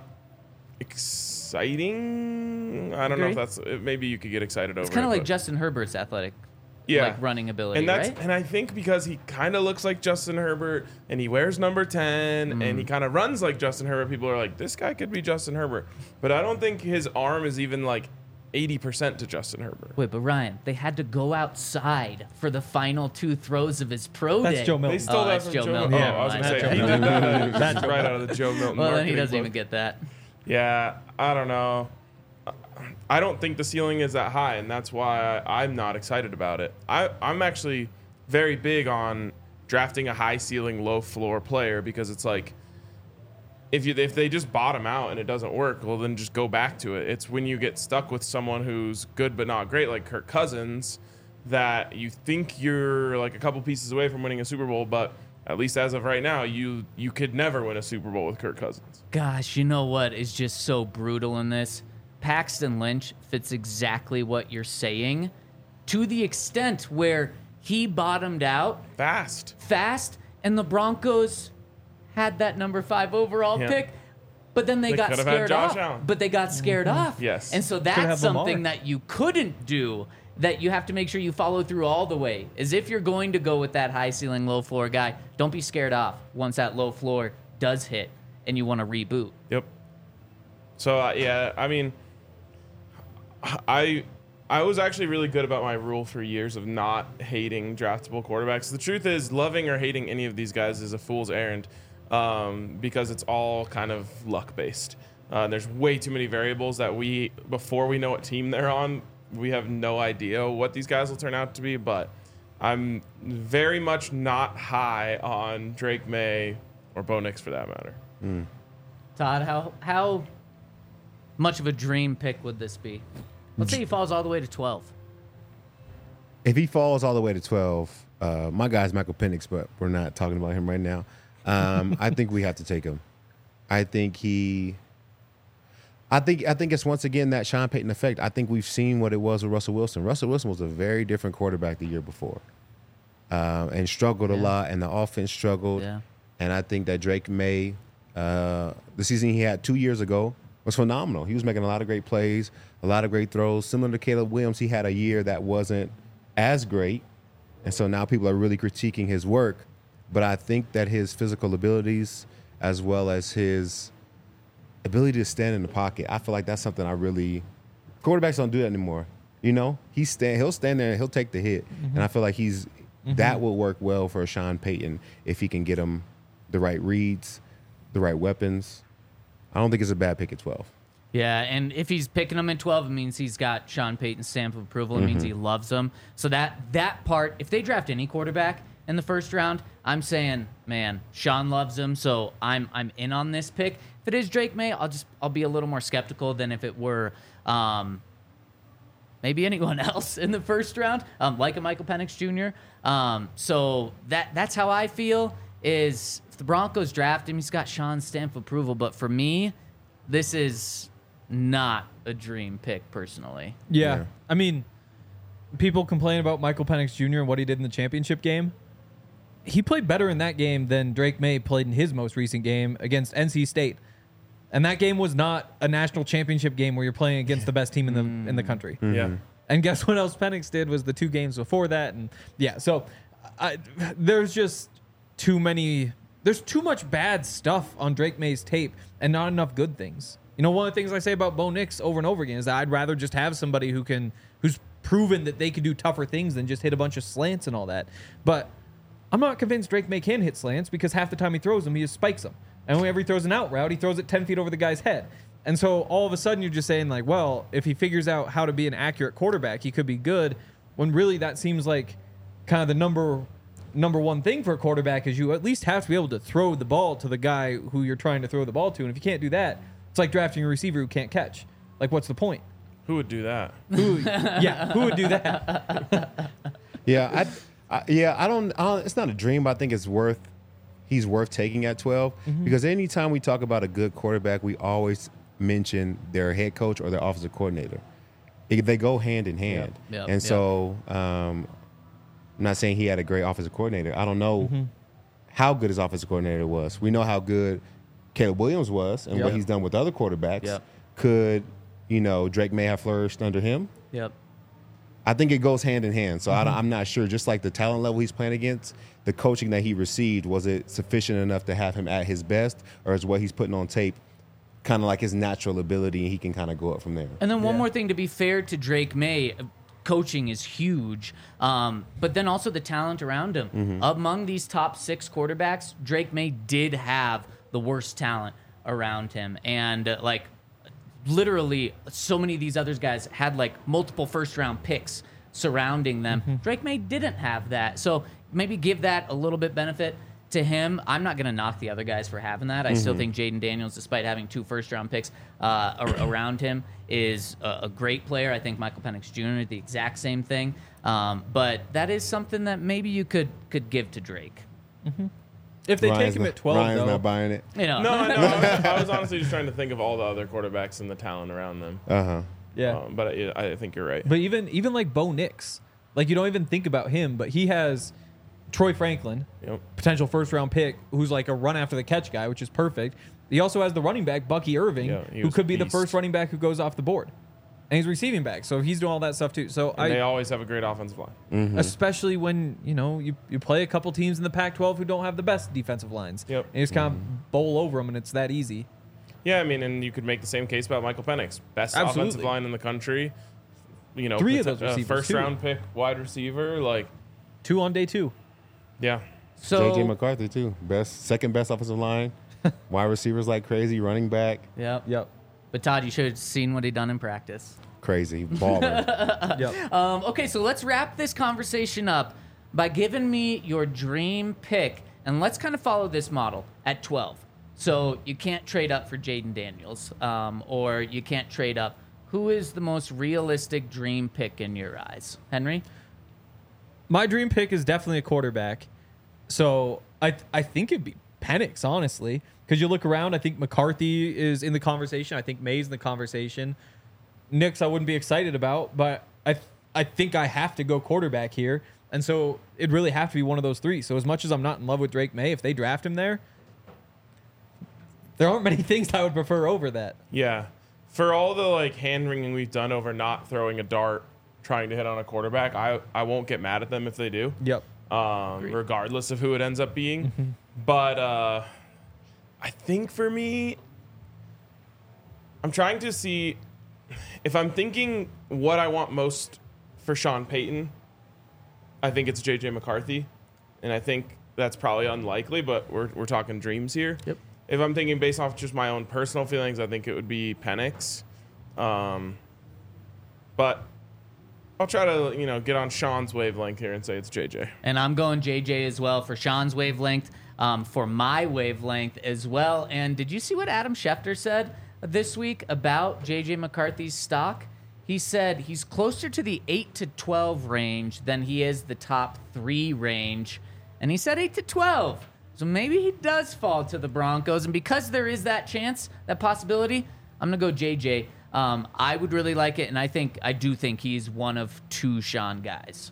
exciting. I don't know if Agree. that's. uh, Maybe you could get excited over. It's kind of it, like but- Justin Herbert's athletic, yeah. like running ability, and that's right? and I think because he kind of looks like Justin Herbert and he wears number ten and Mm. he kind of runs like Justin Herbert, people are like, this guy could be Justin Herbert. But I don't think his arm is even like eighty percent to Justin Herbert. Wait, but Ryan, they had to go outside for the final two throws of his pro That's day. Joe They Milton. stole Oh, that that's from Joe Joe Milton. Milton. Yeah, Oh, I was right. gonna say That's he Joe did Milton. that uh, right out of the Joe Milton. Well, then he marketing doesn't book. even get that. Yeah, I don't know. I don't think the ceiling is that high, and that's why I, I'm not excited about it. I, I'm actually very big on drafting a high ceiling, low floor player because it's like if you if they just bottom out and it doesn't work, well then just go back to it. It's when you get stuck with someone who's good but not great, like Kirk Cousins, that you think you're like a couple pieces away from winning a Super Bowl, but at least as of right now, you you could never win a Super Bowl with Kirk Cousins. Gosh, you know what is just so brutal in this? Paxton Lynch fits exactly what you're saying to the extent where he bottomed out Fast. fast, and the Broncos had that number five overall Yeah. pick, but then they, They got could have had scared Josh off. Allen. But they got scared off. Yes. And so have that's Lamar. something that you couldn't do, that you have to make sure you follow through all the way. Is if you're going to go with that high ceiling, low floor guy, don't be scared off once that low floor does hit and you want to reboot. Yep. So uh, yeah, I mean, I I was actually really good about my rule for years of not hating draftable quarterbacks. The truth is, loving or hating any of these guys is a fool's errand um, because it's all kind of luck based. Uh, there's way too many variables that we before we know what team they're on, we have no idea what these guys will turn out to be. But I'm very much not high on Drake May or Bo Nix for that matter. Todd, how how much of a dream pick would this be? Let's say he falls all the way to twelve. If he falls all the way to twelve, uh, my guy's Michael Penix, but we're not talking about him right now. Um, I think we have to take him. I think he. I think I think it's once again that Sean Payton effect. I think we've seen what it was with Russell Wilson. Russell Wilson was a very different quarterback the year before, uh, and struggled a Yeah. lot, and the offense struggled. Yeah. And I think that Drake May, uh, the season he had two years ago, was phenomenal. He was making a lot of great plays, a lot of great throws. Similar to Caleb Williams, he had a year that wasn't as great. And so now people are really critiquing his work. But I think that his physical abilities, as well as his ability to stand in the pocket, I feel like that's something I really – quarterbacks don't do that anymore. You know, he stand, he'll stand there and he'll take the hit. And I feel like he's that will work well for Sean Payton if he can get him the right reads, the right weapons. I don't think it's a bad pick at twelve. Yeah, and if he's picking him at twelve, it means he's got Sean Payton's stamp of approval. It means he loves him. So that that part, if they draft any quarterback in the first round, I'm saying, man, Sean loves him. So I'm I'm in on this pick. If it is Drake May, I'll just I'll be a little more skeptical than if it were um, maybe anyone else in the first round, um, like a Michael Penix Junior Um, so that that's how I feel. Is if the Broncos draft him, he's got Sean's stamp of approval. But for me, this is not a dream pick personally. Yeah. Yeah. I mean, people complain about Michael Penix Junior and what he did in the championship game. He played better in that game than Drake May played in his most recent game against N C State. And that game was not a national championship game where you're playing against the best team in the in the country. Yeah. And guess what else Penix did was the two games before that. And yeah, so I, there's just too many, there's too much bad stuff on Drake May's tape and not enough good things. You know, one of the things I say about Bo Nix over and over again is that I'd rather just have somebody who can, who's proven that they can do tougher things than just hit a bunch of slants and all that. But I'm not convinced Drake May can hit slants because half the time he throws them, he just spikes them. And whenever he throws an out route, he throws it ten feet over the guy's head. And so all of a sudden you're just saying like, well, if he figures out how to be an accurate quarterback, he could be good. When really that seems like kind of the number number one thing for a quarterback is you at least have to be able to throw the ball to the guy who you're trying to throw the ball to. And if you can't do that, it's like drafting a receiver who can't catch. Like, what's the point? Who would do that? Who, yeah, who would do that? Yeah, I, I yeah, I don't, I don't. It's not a dream, but I think it's worth. He's worth taking at twelve because anytime we talk about a good quarterback, we always mention their head coach or their offensive coordinator. It- they go hand in hand, Yep, and yep. so um, I'm not saying he had a great offensive coordinator. I don't know how good his offensive coordinator was. We know how good Caleb Williams was and Yep. what he's done with other quarterbacks. Yep. Could you know Drake May have flourished under him? Yep. I think it goes hand in hand. So I Mm-hmm. don't, I'm not sure. Just like the talent level he's playing against, the coaching that he received, was it sufficient enough to have him at his best, or is what he's putting on tape kind of like his natural ability, and he can kind of go up from there? And then one Yeah. more thing, to be fair to Drake May, uh, coaching is huge, um, but then also the talent around him. Among these top six quarterbacks, Drake May did have the worst talent around him, and uh, like literally so many of these other guys had like multiple first round picks surrounding them. Mm-hmm. Drake May didn't have that. So maybe give that a little bit benefit to him. I'm not going to knock the other guys for having that. I Mm-hmm. still think Jaden Daniels, despite having two first round picks uh, ar- around him, is a, a great player. I think Michael Penix Junior the exact same thing. Um, but that is something that maybe you could could give to Drake. If they Ryan's take him not, at twelve, Ryan's though, not buying it. You know, No, I know. I was, I was honestly just trying to think of all the other quarterbacks and the talent around them. Uh huh. yeah. Um, but I, I think you're right. But even even like Bo Nix, like you don't even think about him, but he has Troy Franklin, Yep. potential first round pick, who's like a run after the catch guy, which is perfect. He also has the running back Bucky Irving, Yeah, he who was could a be the beast. first running back who goes off the board, and he's receiving back, so he's doing all that stuff too. So And I, they always have a great offensive line. Mm-hmm. especially when you know you, you play a couple teams in the Pac twelve who don't have the best defensive lines, Yep. and you just kind of bowl over them, and it's that easy. Yeah, I mean, and you could make the same case about Michael Penix, best Absolutely. offensive line in the country. You know, Three of prote- those uh, receivers, first too. round pick, wide receiver. Like, Two on day two. yeah, so J J McCarthy too. Best, second best offensive line. Wide receivers like crazy. Running back, Yep. Yep. But Todd, you should have seen what he done in practice. crazy baller. Yep. Um, okay, so let's wrap this conversation up by giving me your dream pick, and let's kind of follow this model at twelve. So you can't trade up for Jaden Daniels, um, or you can't trade up. Who is the most realistic dream pick in your eyes, Henry? My dream pick is definitely a quarterback. So I I think it'd be Penix, honestly. Because you look around, I think McCarthy is in the conversation. I think May's in the conversation. Nix, I wouldn't be excited about, but I I think I have to go quarterback here. And so it'd really have to be one of those three. So as much as I'm not in love with Drake May, if they draft him there, there aren't many things I would prefer over that. yeah. For all the like hand wringing we've done over not throwing a dart, trying to hit on a quarterback, I I won't get mad at them if they do. Yep. um, regardless of who it ends up being. But uh, I think for me, I'm trying to see if I'm thinking what I want most for Sean Payton. I think it's J J McCarthy, and I think that's probably unlikely, but we're we're talking dreams here. Yep. If I'm thinking based off just my own personal feelings, I think it would be Penix. Um, but I'll try to, you know, get on Sean's wavelength here and say it's J J. And I'm going J J as well for Sean's wavelength, um, for my wavelength as well. And did you see what Adam Schefter said this week about J J McCarthy's stock? He said he's closer to the eight to twelve range than he is the top three range. And he said eight to twelve. So maybe he does fall to the Broncos. And because there is that chance, that possibility, I'm going to go J J. Um, I would really like it, and I think I do think he's one of two Sean guys.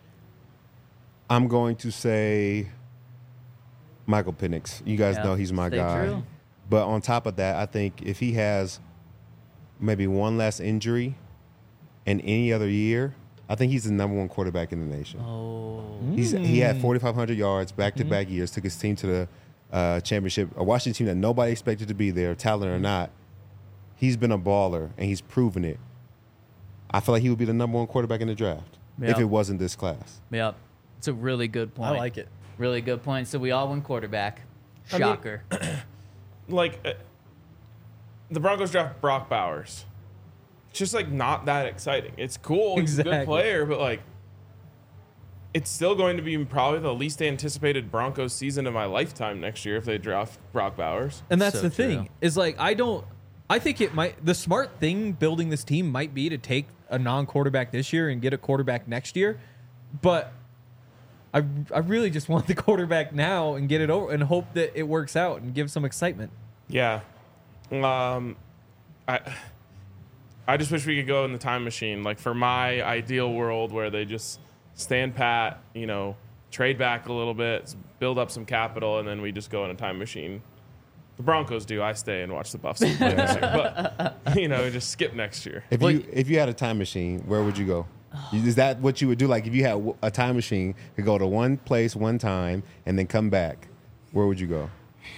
I'm going to say Michael Penix. You guys Yeah, know he's my stay guy. true. But on top of that, I think if he has maybe one less injury in any other year, I think he's the number one quarterback in the nation. Oh. He's he had forty-five hundred yards back-to-back years, took his team to the uh, championship, a Washington team that nobody expected to be there, talent or not. He's been a baller, and he's proven it. I feel like he would be the number one quarterback in the draft if Yeah. it wasn't this class. Yep. It's a really good point. I like it. Really good point. So we all went quarterback. I mean- Shocker. Like, uh, the Broncos draft Brock Bowers. It's just, like, not that exciting. It's cool. He's a Exactly. good player, but, like, it's still going to be probably the least anticipated Broncos season of my lifetime next year if they draft Brock Bowers. And that's So the true. thing is like I don't. I think it might. The smart thing building this team might be to take a non-quarterback this year and get a quarterback next year, but I I really just want the quarterback now and get it over and hope that it works out and give some excitement. Yeah. Um, I I just wish we could go in the time machine. Like, for my ideal world where they just stand pat, you know, trade back a little bit, build up some capital, and then we just go in a time machine. The Broncos do. I stay and watch the Buffs play next year. But, you know, just skip next year. If Well, you if you had a time machine, where would you go? Is that what you would do? Like if you had w- a time machine to go to one place one time and then come back, where would you go?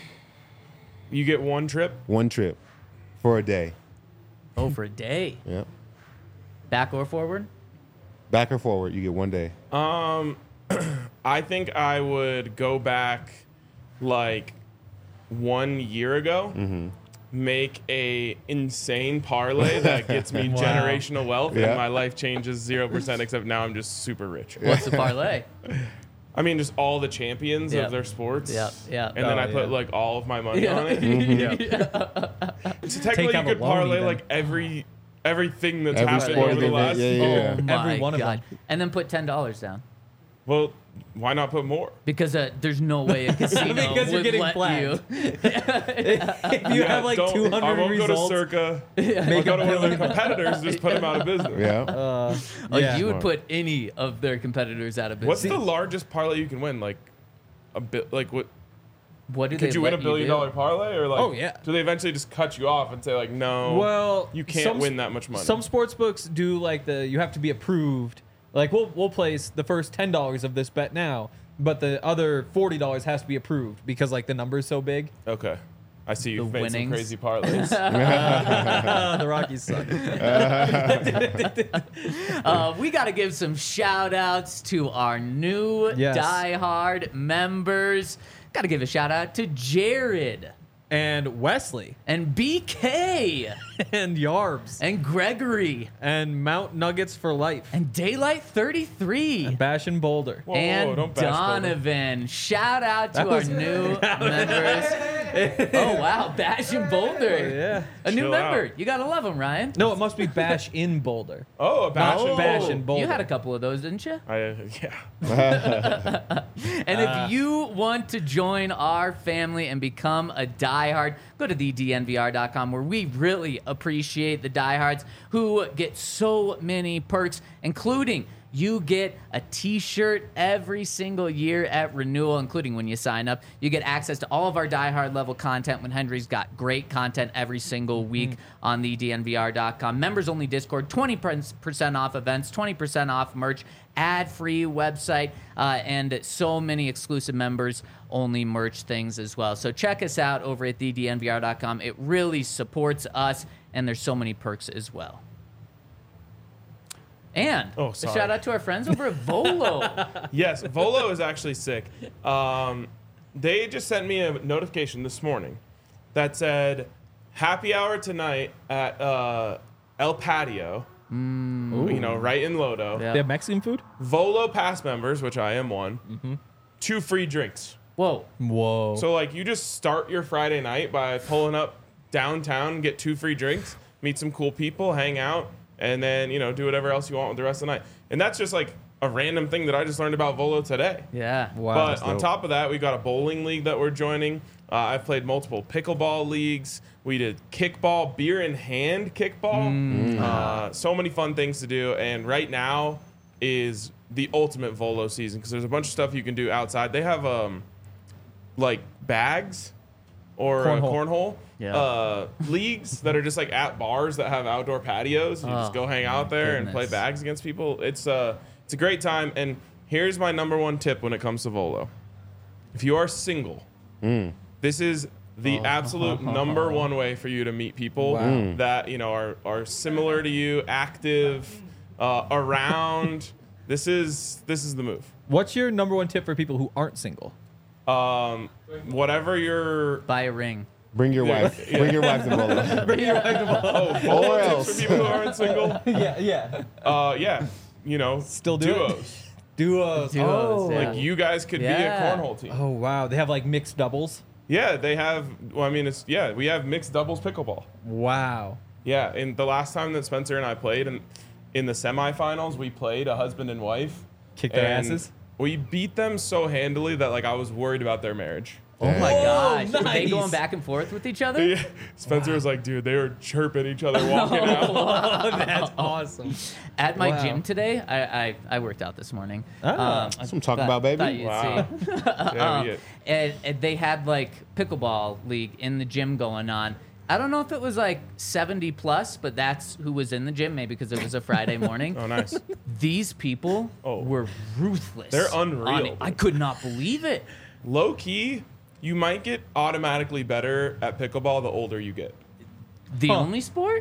You get one trip. One trip for a day. Oh, for a day. Yeah. Back or forward? Back or forward, you get one day. Um, I think I would go back like one year ago, make a insane parlay that gets me Wow. generational wealth, Yeah. and my life changes zero percent. Except now I'm just super rich. What's the parlay? I mean, just all the champions Yep. of their sports. Yep, yep. And then Oh, I put yeah. like all of my money Yeah. on it. Yeah. So technically, out you could a loan parlay even. like every everything that's Every happened sporting over the event, last. yeah, yeah. Oh my Every one of god! them. And then put ten dollars down Well, why not put more? because uh, there's no way a casino Because you're would getting let flagged. you. If you Yeah, have like don't- two I hundred won't results, go to Circa. I'll make go a to one of their billion. competitors. Just put them out of business. Yeah. Uh, Like yeah. you would Smart. put any of their competitors out of What's business. the largest parlay you can win? Like a bit. Like what? What do Could they you win a let billion do? dollar parlay, or like? Oh, yeah. Do they eventually just cut you off and say like, no? Well, you can't some- win that much money. Some sports books do like the you have to be approved. Like we'll we'll place the first ten dollars of this bet now, but the other forty dollars has to be approved because like the number is so big. Okay. I see you've The made some winnings. crazy parlays. Ah, the Rockies suck. Uh, we got to give some shout outs to our new Yes. Die Hard members. Got to give a shout out to Jared And Wesley and B K and Yarbs and Gregory and Mount Nuggets for life and Daylight thirty-three. and Bash and Boulder. Whoa, whoa, and don't bash Boulder. Donovan. Shout out to That our was- new members. Oh, wow. Bash and Boulder. Yeah. A new Chill member. out. You got to love them, Ryan. No, it must be Bash in Boulder. Oh, a bash Not and bash bowl. and bowl. You had a couple of those, didn't you? I, uh, yeah. And Ah. if you want to join our family and become a diehard, go to the D N V R dot com where we really appreciate the diehards who get so many perks, including you get a t-shirt every single year at renewal, including when you sign up. You get access to all of our diehard level content when Henry's got great content every single week on the D N V R dot com. Members only Discord, twenty percent off events, twenty percent off merch, ad-free website, uh, and so many exclusive members only merch things as well. So check us out over at the D N V R dot com. It really supports us, and there's so many perks as well. And Oh, a sorry. shout out to our friends over at Volo. Yes, Volo is actually sick. Um, they just sent me a notification this morning that said happy hour tonight at uh, El Patio. You know, right in Lodo. Yeah. They have Mexican food? Volo pass members, which I am one, two free drinks. Whoa. Whoa. So like you just start your Friday night by pulling up downtown, get two free drinks, meet some cool people, hang out, and then you know do whatever else you want with the rest of the night. And that's just like a random thing that I just learned about Volo today. Yeah. wow. But on dope. top of that, we got a bowling league that we're joining. Uh, I've played multiple pickleball leagues. We did kickball, beer in hand kickball. Uh, so many fun things to do. And right now is the ultimate Volo season because there's a bunch of stuff you can do outside. They have um, like bags or Cornhole. cornhole, cornhole Yeah. uh, leagues that are just like at bars that have outdoor patios. You Oh, just go hang out there and play goodness. bags against people. It's uh, it's a great time. And here's my number one tip when it comes to Volo. If you are single, this is the absolute number one way for you to meet people Wow. Mm. that you know are are similar to you, active, uh, around. This is this is the move. What's your number one tip for people who aren't single? Um, whatever your Buy a ring. Bring your Yeah. wife. Bring your wife to Bolo. oh, Volo Or tips else. for people who aren't single. yeah, yeah. Uh, yeah, you know, Still do it. duos. Duos. Duos, oh. yeah. Like you guys could Yeah. be a cornhole team. Oh wow, they have like mixed doubles. Yeah, they have. Well, I mean, it's yeah, we have mixed doubles pickleball. Wow. Yeah, and the last time that Spencer and I played, and in the semifinals, we played a husband and wife. Kick their and asses. We beat them so handily that like I was worried about their marriage. Oh my Whoa, gosh. Were they nice. going back and forth with each other? Yeah. Spencer was like, dude, they were chirping each other walking out. Oh, that's awesome. At my Wow. gym today, I, I I worked out this morning. Um, Ah. I That's what I'm talking thought- about, baby. thought you'd Wow. see. Yeah, Um, we get- and, and they had like pickleball league in the gym going on. I don't know if it was like seventy plus, but that's who was in the gym, maybe because it was a Friday morning. Oh, nice. These people Oh. were ruthless. They're on unreal. it. I could not believe it. Low key, you might get automatically better at pickleball the older you get. The Huh. only sport?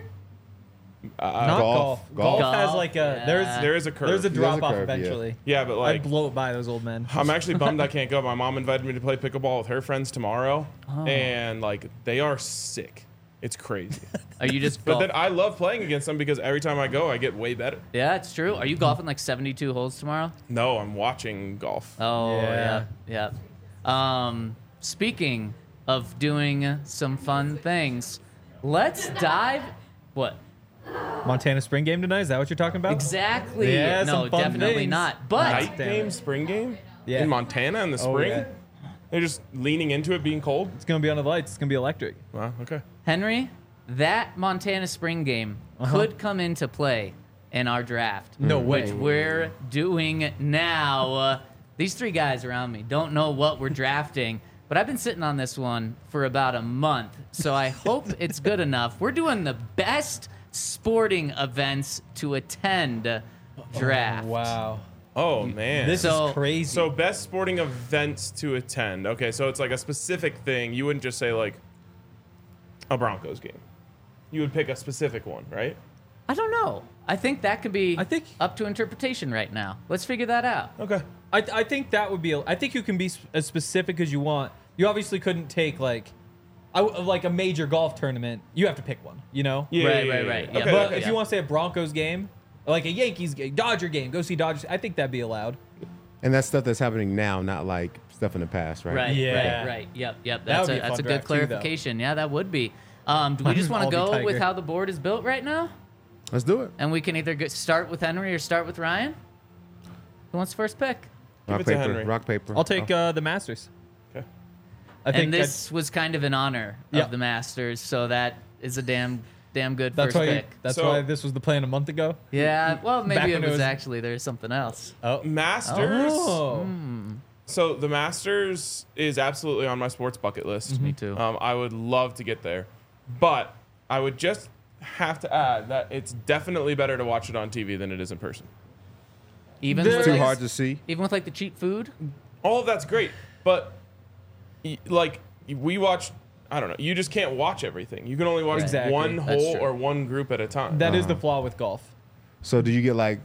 Uh, Not golf. golf. Golf. Golf has Golf, like a yeah. there's there is a curve. there's a There's a drop off curve, yeah. eventually. yeah, but like I'd blow it by those old men. I'm actually bummed I can't go. My mom invited me to play pickleball with her friends tomorrow, Oh. and like they are sick. It's crazy. Are you just But golf- then I love playing against them because every time I go, I get way better. Yeah, it's true. Are you golfing like seventy-two holes tomorrow? No, I'm watching golf. Oh, Yeah. yeah. Yeah. Um, speaking of doing some fun things, let's dive. What? Montana spring game tonight. Is that what you're talking about? Exactly. Yeah, no, some fun definitely things. not. But Night damn game, it. spring game? Yeah. In Montana in the Oh, spring? yeah. They're just leaning into it being cold? It's gonna be on the lights. It's gonna be electric. Wow, okay. Henry, that Montana spring game Uh-huh. could come into play in our draft. No way. Which we're doing now. Uh, these three guys around me don't know what we're drafting, but I've been sitting on this one for about a month, so I hope it's good enough. We're doing the best sporting events to attend draft. Wow. Oh, man. This So- is crazy. So best sporting events to attend. Okay, so it's like a specific thing. You wouldn't just say like a Broncos game. You would pick a specific one, right? I don't know. I think that could be I think- up to interpretation right now. Let's figure that out. Okay. I, I think that would be. A, I think you can be s- as specific as you want. You obviously couldn't take like, I w like a major golf tournament. You have to pick one. You know. Yeah, Right, yeah, right, yeah, right. yeah. Yeah, Okay, But okay. if you want to say a Broncos game, or like a Yankees game, Dodger game, go see Dodgers. I think that'd be allowed. And that's stuff that's happening now, not like stuff in the past, right? Right, Yeah. right, right. Yep, yep. That That's would a be a that's fun a good draft too, though. clarification. Yeah, that would be. Um, do we just want to I'll be go with Tiger. how the board is built right now? Let's do it. And we can either get, start with Henry or start with Ryan? Who wants the first pick? Rock, it to paper, Henry. rock, paper. I'll take uh, the Masters. Okay. I think and this was kind of in honor Yeah. of the Masters, so that is a damn damn good that's first why. pick. That's So- why this was the plan a month ago. Yeah, well, Back maybe it when it was, was- actually there's something else. Oh. Masters. Oh. So the Masters is absolutely on my sports bucket list. Me too. Um, I would love to get there, but I would just have to add that it's definitely better to watch it on T V than it is in person. Even There- with Too like, hard to see. even with like the cheap food. All of that's great, but y- like we watch, I don't know. You just can't watch everything. You can only watch Exactly. one That's hole true. or one group at a time. That is Uh-huh. the flaw with golf. So do you get like,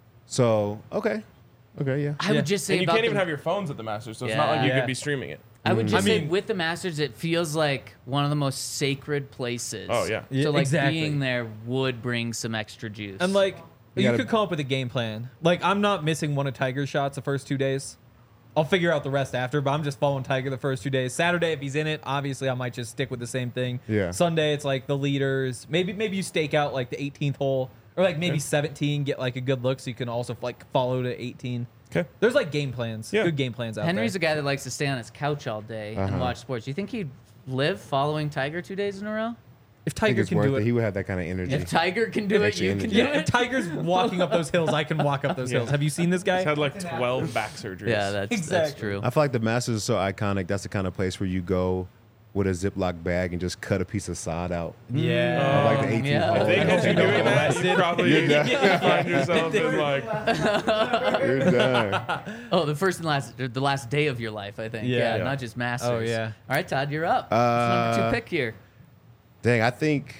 so okay, okay, yeah. I Yeah. would just say and you about can't even the- have your phones at the Masters, so it's not like you Yeah. could be streaming it. I would Mm. just I say mean- with the Masters, it feels like one of the most sacred places. Oh, yeah. Yeah, So like exactly. being there would bring some extra juice. And like, You you, gotta- could come up with a game plan. Like, I'm not missing one of Tiger's shots the first two days. I'll figure out the rest after, but I'm just following Tiger the first two days. Saturday, if he's in it, obviously I might just stick with the same thing. Yeah. Sunday, it's like the leaders. Maybe maybe you stake out like the eighteenth hole, or like maybe seventeen, get like a good look, so you can also like follow to eighteen. Okay. There's like game plans, Yeah. good game plans out Henry's a there. guy that likes to stay on his couch all day and Uh-huh. watch sports. You think he'd live following Tiger two days in a row? If I think Tiger it's can worth do it. it, He would have that kind of energy. If Tiger can do it, Extra you can energy. do yeah. If it. Tiger's walking up those hills, I can walk up those Yeah. hills. Have you seen this guy? He's had like twelve back surgeries. Yeah, that's that's Exactly. true. I feel like the Masters is so iconic. That's the kind of place where you go with a Ziploc bag and just cut a piece of sod out. Yeah. Of like the eighteenth yeah. hole. I think I if hope you're you don't doing get that, you arrested. probably You're done. find yourself in like You're done. Oh, the first and last, or the last day of your life, I think. Yeah. Yeah, Yeah. not just Masters. Oh, yeah. All right, Todd, you're up. Uh, What's number two pick here? Dang, I think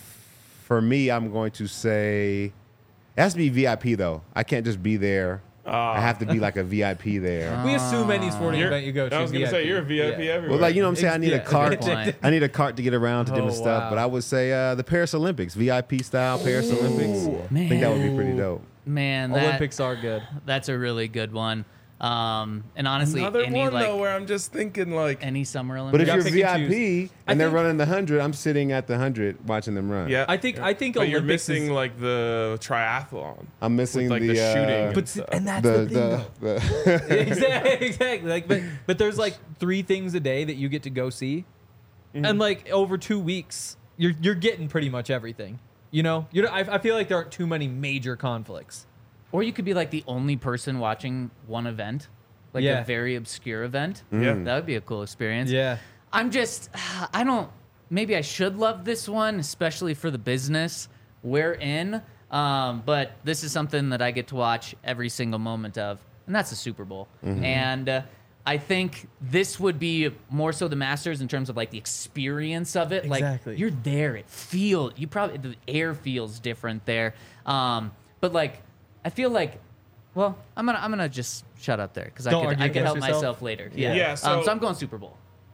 for me, I'm going to say it has to be V I P though. I can't just be there. Ah. I have to be like a V I P there. We assume any sporting You're- event you go to. I was gonna V I P. say you're a V I P Yeah. everywhere. Well, like you know what I'm saying. I need Yeah, a cart. good point. I need a cart to get around to different Oh, stuff. wow. But I would say uh, the Paris Olympics, V I P style Paris Olympics. I think that would be pretty dope. Man, that, Olympics are good. that's a really good one. Um, and honestly, Another any one like though where I'm just thinking like, any summer Olympics. But if gotta you're pick V and I choose. P I and they're think- running the hundred, I'm sitting at the hundred watching them run. yeah. I think I think but you're Olympics missing is, like the triathlon, I'm missing with, like the, the, uh, shooting. but and and that's the the, thing, though. the, the exactly, exactly. Like, but but there's like three things a day that you get to go see, Mm-hmm. and like over two weeks, you're you're getting pretty much everything. You know, you know. I, I feel like there aren't too many major conflicts. Or you could be like the only person watching one event, like Yeah. a very obscure event. Yeah. That would be a cool experience. Yeah, I'm just, I don't, maybe I should love this one, especially for the business we're in. Um, but this is something that I get to watch every single moment of, and that's the Super Bowl. And uh, I think this would be more so the Masters in terms of like the experience of it. Exactly. Like you're there, it feels, you probably, the air feels different there. Um, but like, I feel like, well, I'm gonna I'm gonna just shut up there because I Don't could argue I could help against yourself. myself later. Yeah. Yeah. Yeah, um, so- so I'm going Super Bowl.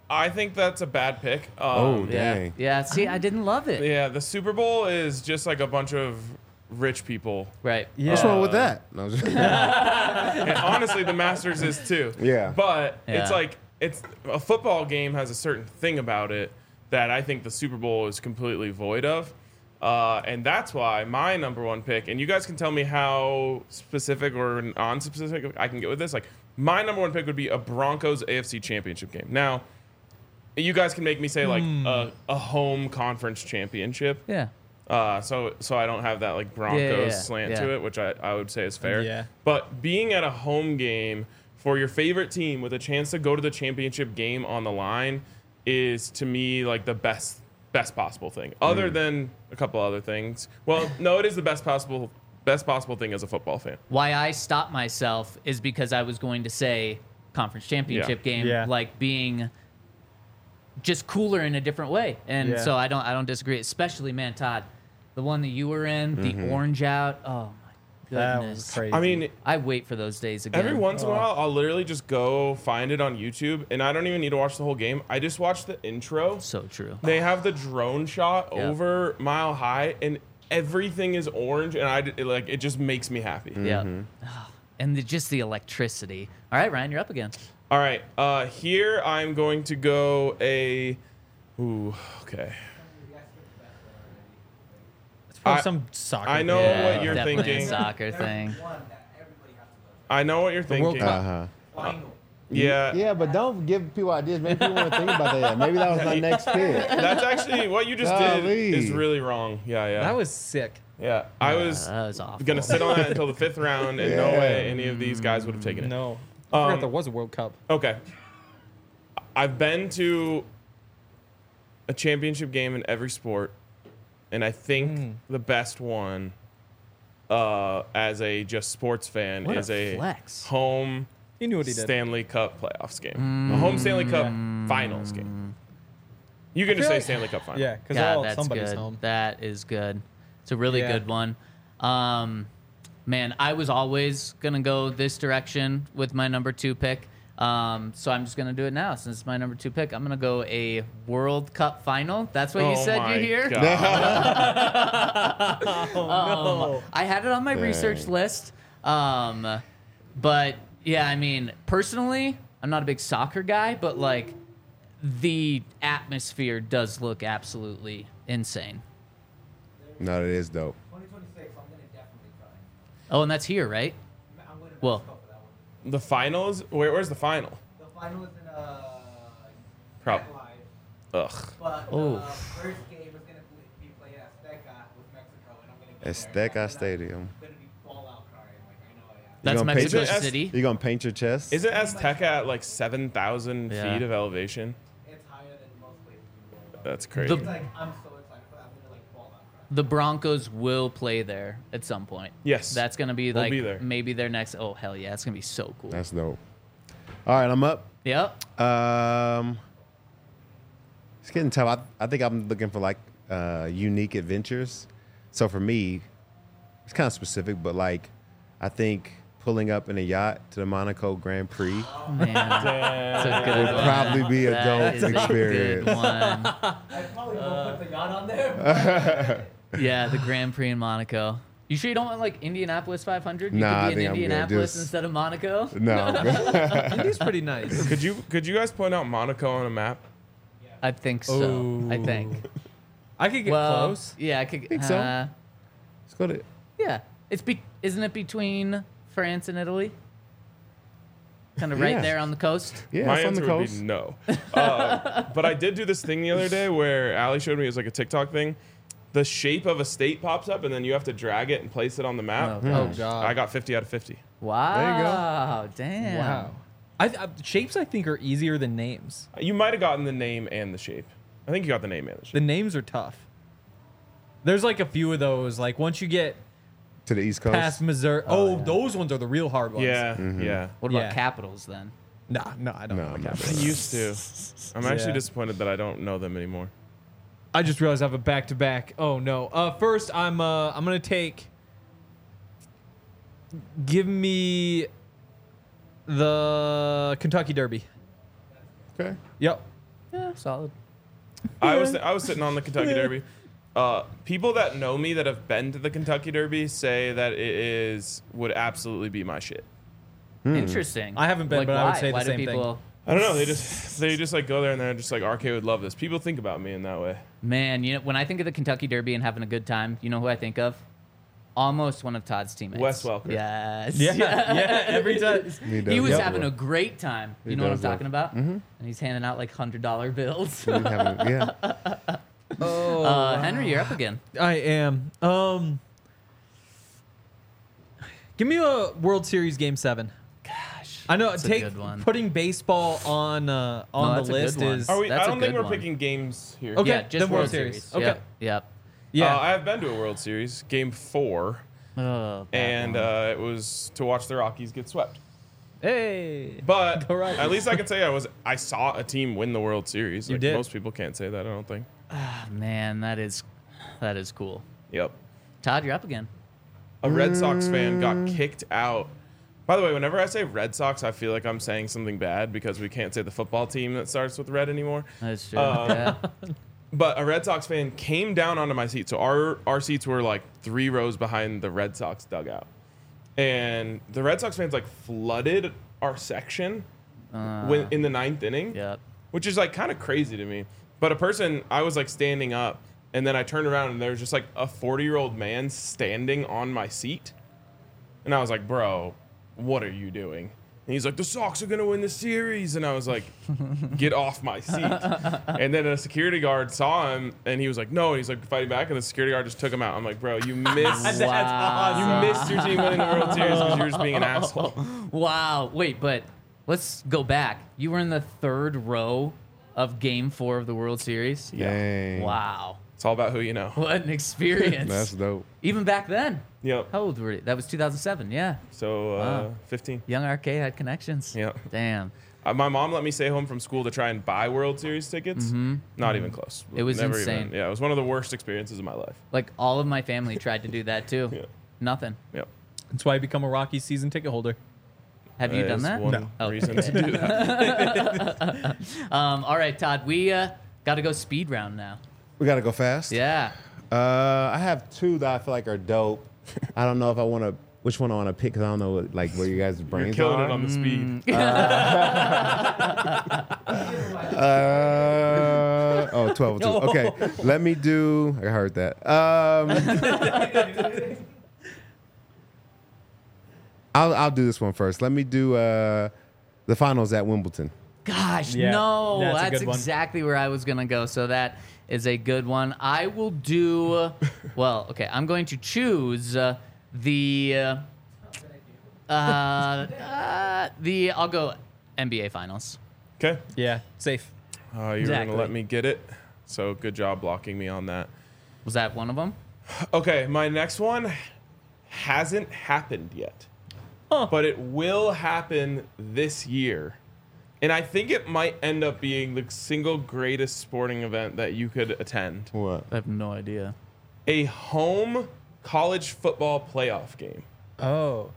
I think that's a bad pick. Um, Oh, Yeah. dang. Yeah. See, I didn't love it. Yeah, the Super Bowl is just like a bunch of rich people. Right. Yeah. What's wrong with that? No, I'm just- And honestly, the Masters is too. Yeah. But it's Yeah. like it's a football game has a certain thing about it that I think the Super Bowl is completely void of. Uh, and that's why my number one pick, and you guys can tell me how specific or non-specific I can get with this. Like my number one pick would be a Broncos A F C Championship game. Now, you guys can make me say like a, a home conference championship. Yeah. Uh, so so I don't have that like Broncos Yeah, yeah, yeah. slant Yeah. to it, which I, I would say is fair. Yeah. But being at a home game for your favorite team with a chance to go to the championship game on the line is to me like the best best possible thing. Other than a couple other things. Well, no, it is the best possible best possible thing as a football fan. Why I stopped myself is because I was going to say conference championship Yeah. game, Yeah. like being just cooler in a different way. And Yeah. so I don't I don't disagree. Especially, man, Todd, the one that you were in, the orange out. Oh my That goodness. was crazy. I mean, I wait for those days again. every once Oh. in a while, I'll literally just go find it on YouTube, and I don't even need to watch the whole game. I just watch the intro. So true. They have the drone shot Yeah. over Mile High, and everything is orange, and I it, like it just makes me happy. Yeah. And the, just the electricity. All right, Ryan, you're up again. All right, uh, here I'm going to go a. Ooh, okay. it's probably I- some soccer. I know game. what you're definitely thinking. a soccer thing. One that everybody has to go I know what you're World thinking. Cup. uh-huh. to. Final. Yeah, Yeah, but don't give people ideas. Maybe people want to think about that. Maybe that was my next pick. that's actually what you just did Golly. is really wrong. Yeah, yeah. That was sick. yeah. I was That was awful. gonna sit on that until the fifth round, and no Yeah. way any of these guys would have taken it. No. I Um, forgot there was a World Cup. Okay. I've been to a championship game in every sport, and I think Hmm. the best one uh, as a just sports fan What a is a flex. home He knew what he did. Stanley Cup playoffs game. A home Stanley Cup finals game. You can just feel say like- Stanley Cup finals. Yeah, because God, all that's somebody's good. home. That is good. It's a really Yeah. good one. Um, man, I was always gonna go this direction with my number two pick. Um, so I'm just gonna do it now since it's my number two pick. I'm gonna go a World Cup final. That's what you Oh said my you hear. God. Oh, Um, I had it on my research Dang. list. Um, but yeah, I mean, personally, I'm not a big soccer guy, but like the atmosphere does look absolutely insane. No, it is dope. twenty twenty-six, I'm going to definitely try. Oh, and that's here, right? I'm going to Well- Mexico for that one. The finals? Where, where's the final? The final is in uh, Prob- Live, Ugh. but Oh. the first game is going to be played at Azteca with Mexico, and I'm going to get there. Azteca Stadium. Going to be ball out crying, like I know I am. That's gonna Mexico paint it as- City. You gonna paint your chest? Isn't Azteca at like seven thousand Yeah. feet of elevation? It's higher than most places in the world. That's crazy. The- It's like I'm so excited for that. I'm going to like ball out crying. The Broncos will play there at some point. Yes. That's gonna be We'll like be there. maybe their next. Oh hell yeah, it's gonna be so cool. That's dope. All right, I'm up. Yep. Um, it's getting tough. I, I think I'm looking for like uh, unique adventures. So for me, it's kind of specific, but like I think pulling up in a yacht to the Monaco Grand Prix Man, that's a good would one. probably be a That dope is a good experience. one. I probably won't put the yacht on there. Yeah, the Grand Prix in Monaco. You sure you don't want like Indianapolis five hundred? You Nah, I could be in think I'm good. Indianapolis Just- instead of Monaco. No. Indy's pretty nice. Could you could you guys point out Monaco on a map? I think so. I think. I could get Well, close. yeah, I could. Think so? uh, Let's go to. Yeah, it's be. Isn't it between France and Italy? Kind of right Yeah. there on the coast. Yeah, My it's on the answer would coast. be no. Uh, but I did do this thing the other day where Ali showed me it was like a TikTok thing. The shape of a state pops up, and then you have to drag it and place it on the map. Oh, Oh gosh. god. I got fifty out of fifty. Wow. Damn. Wow. I, I, shapes I think are easier than names. You might have gotten the name and the shape. I think you got the name and the shape. The names are tough. There's like a few of those. Like once you get To the East Coast. past Missouri, oh, those ones are the real hard ones. Yeah, Mm-hmm. yeah. What about Yeah. capitals then? Nah, no, I don't No, know. I'm the not. I capitals. used to. I'm actually Yeah. disappointed that I don't know them anymore. I just realized I have a back to back. Oh no. Uh, first I'm uh I'm gonna take. Give me the Kentucky Derby. Okay. Yep. Yeah, solid. I was I was sitting on the Kentucky Derby. Uh, people that know me that have been to the Kentucky Derby say that it is would absolutely be my shit. Interesting. I haven't been, like, but why? I would say the why same do thing. people, I don't know. They just they just like go there and they're just like R K would love this. People think about me in that way. Man, you know, when I think of the Kentucky Derby and having a good time, you know who I think of? Almost one of Todd's teammates. Wes Welker. Yes. Yeah, yeah, every time. He does He was love having it. a great time. You He know what I'm does love- talking about? Mm-hmm. And he's handing out like hundred dollar bills. He having- yeah. Oh, uh, Henry, you're up again. I am. Um, give me a World Series Game Seven. Gosh, I know. that's a Take good one. putting baseball on uh, No, on that's the a good list one. is Are we? That's I a don't think good we're one. picking games here. Okay. yeah, just the World, World Series. Series. Okay. Yep. yep. yeah. Uh, I have been to a World Series, Game Four, Oh, bad and one. uh, it was to watch the Rockies get swept. hey. But Go Rockies. at least I can say I was I saw a team win the World Series. You Like, did. Most people can't say that. I don't think. Ah, man, that is that is cool. Yep. Todd, you're up again. A Red Sox fan got kicked out. By the way, whenever I say Red Sox, I feel like I'm saying something bad because we can't say the football team that starts with red anymore. That's true. Um, yeah. But a Red Sox fan came down onto my seat. So our our seats were like three rows behind the Red Sox dugout. And the Red Sox fans like flooded our section Uh, when, in the ninth inning, Yep. which is like kind of crazy to me. But a person, I was like standing up and then I turned around and there was just like a forty year old man standing on my seat. And I was like, bro, what are you doing? And he's like, the Sox are going to win the series. And I was like, get off my seat. And then a security guard saw him and he was like, no. And he's like fighting back. And the security guard just took him out. I'm like, bro, you missed, That's you awesome. missed your team winning the World Series because you were just being an asshole. Wow. Wait, but let's go back. You were in the third row of Game Four of the World Series. Dang. Wow. It's all about who you know. What an experience. That's dope. Even back then. Yep. How old were you? That was two thousand seven. Yeah. So uh, Wow. fifteen. Young Arcade had connections. Yep. Damn. Uh, my mom let me stay home from school to try and buy World Series tickets. Not even close. It was Never insane. Even, yeah, it was one of the worst experiences of my life. Like all of my family tried to do that too. Yeah. Nothing. Yep. That's why I become a Rockies season ticket holder. Have you That done is that? One No. Oh, reason okay. to do that. Um, all right, Todd. We uh, got to go speed round now. We gotta go fast. Yeah. Uh, I have two that I feel like are dope. I don't know if I want to. Which one I want to pick? Cause I don't know what, like where you guys' You're brains killing are. it on the speed. Uh, oh, twelve oh two. Okay, let me do. I heard that. Um, I'll I'll do this one first. Let me do uh, the finals at Wimbledon. Gosh, Yeah, no, that's a that's, good one. exactly where I was gonna go. So that is a good one. I will do. Well, okay, I'm going to choose uh, the. Uh, uh, uh, the I'll go N B A Finals. Okay. Yeah, safe. Uh, you're Exactly. gonna let me get it. So good job blocking me on that. Was that one of them? Okay, my next one hasn't happened yet, but it will happen this year. And I think it might end up being the single greatest sporting event that you could attend. What? I have no idea. A home college football playoff game. Oh.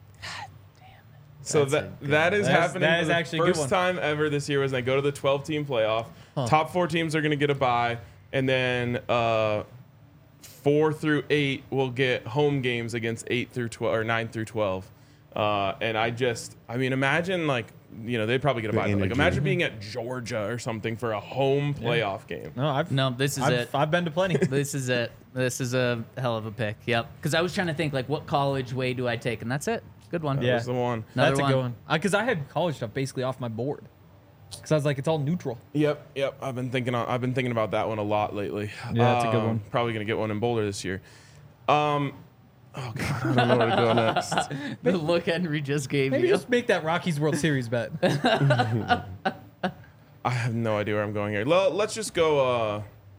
So That's a that good that is That is- happening that for is the actually a good first one. time ever this year. Was they go to the twelve team playoff. Top four teams are going to get a bye, and then uh, four through eight will get home games against eight through twelve or nine through twelve. Uh, and I just, I mean, imagine like you know they'd probably get a The bye. But, like energy. imagine being at Georgia or something for a home playoff game. No, I've No, this is I've, it. I've been to plenty. This is it. This is a hell of a pick. Yep. Because I was trying to think like, what college way do I take, and that's it. Good one. That Yeah. was the one. Another That's a one. good one. Because I had college stuff basically off my board. Because I was like, it's all neutral. Yep, yep. I've been thinking. On, I've been thinking about that one a lot lately. Yeah, that's a good Um, one. Probably gonna get one in Boulder this year. Um, oh god, I don't know where to go next. The look Henry just gave Maybe you. just make that Rockies World Series bet. I have no idea where I'm going here. Well, let's just go. Uh,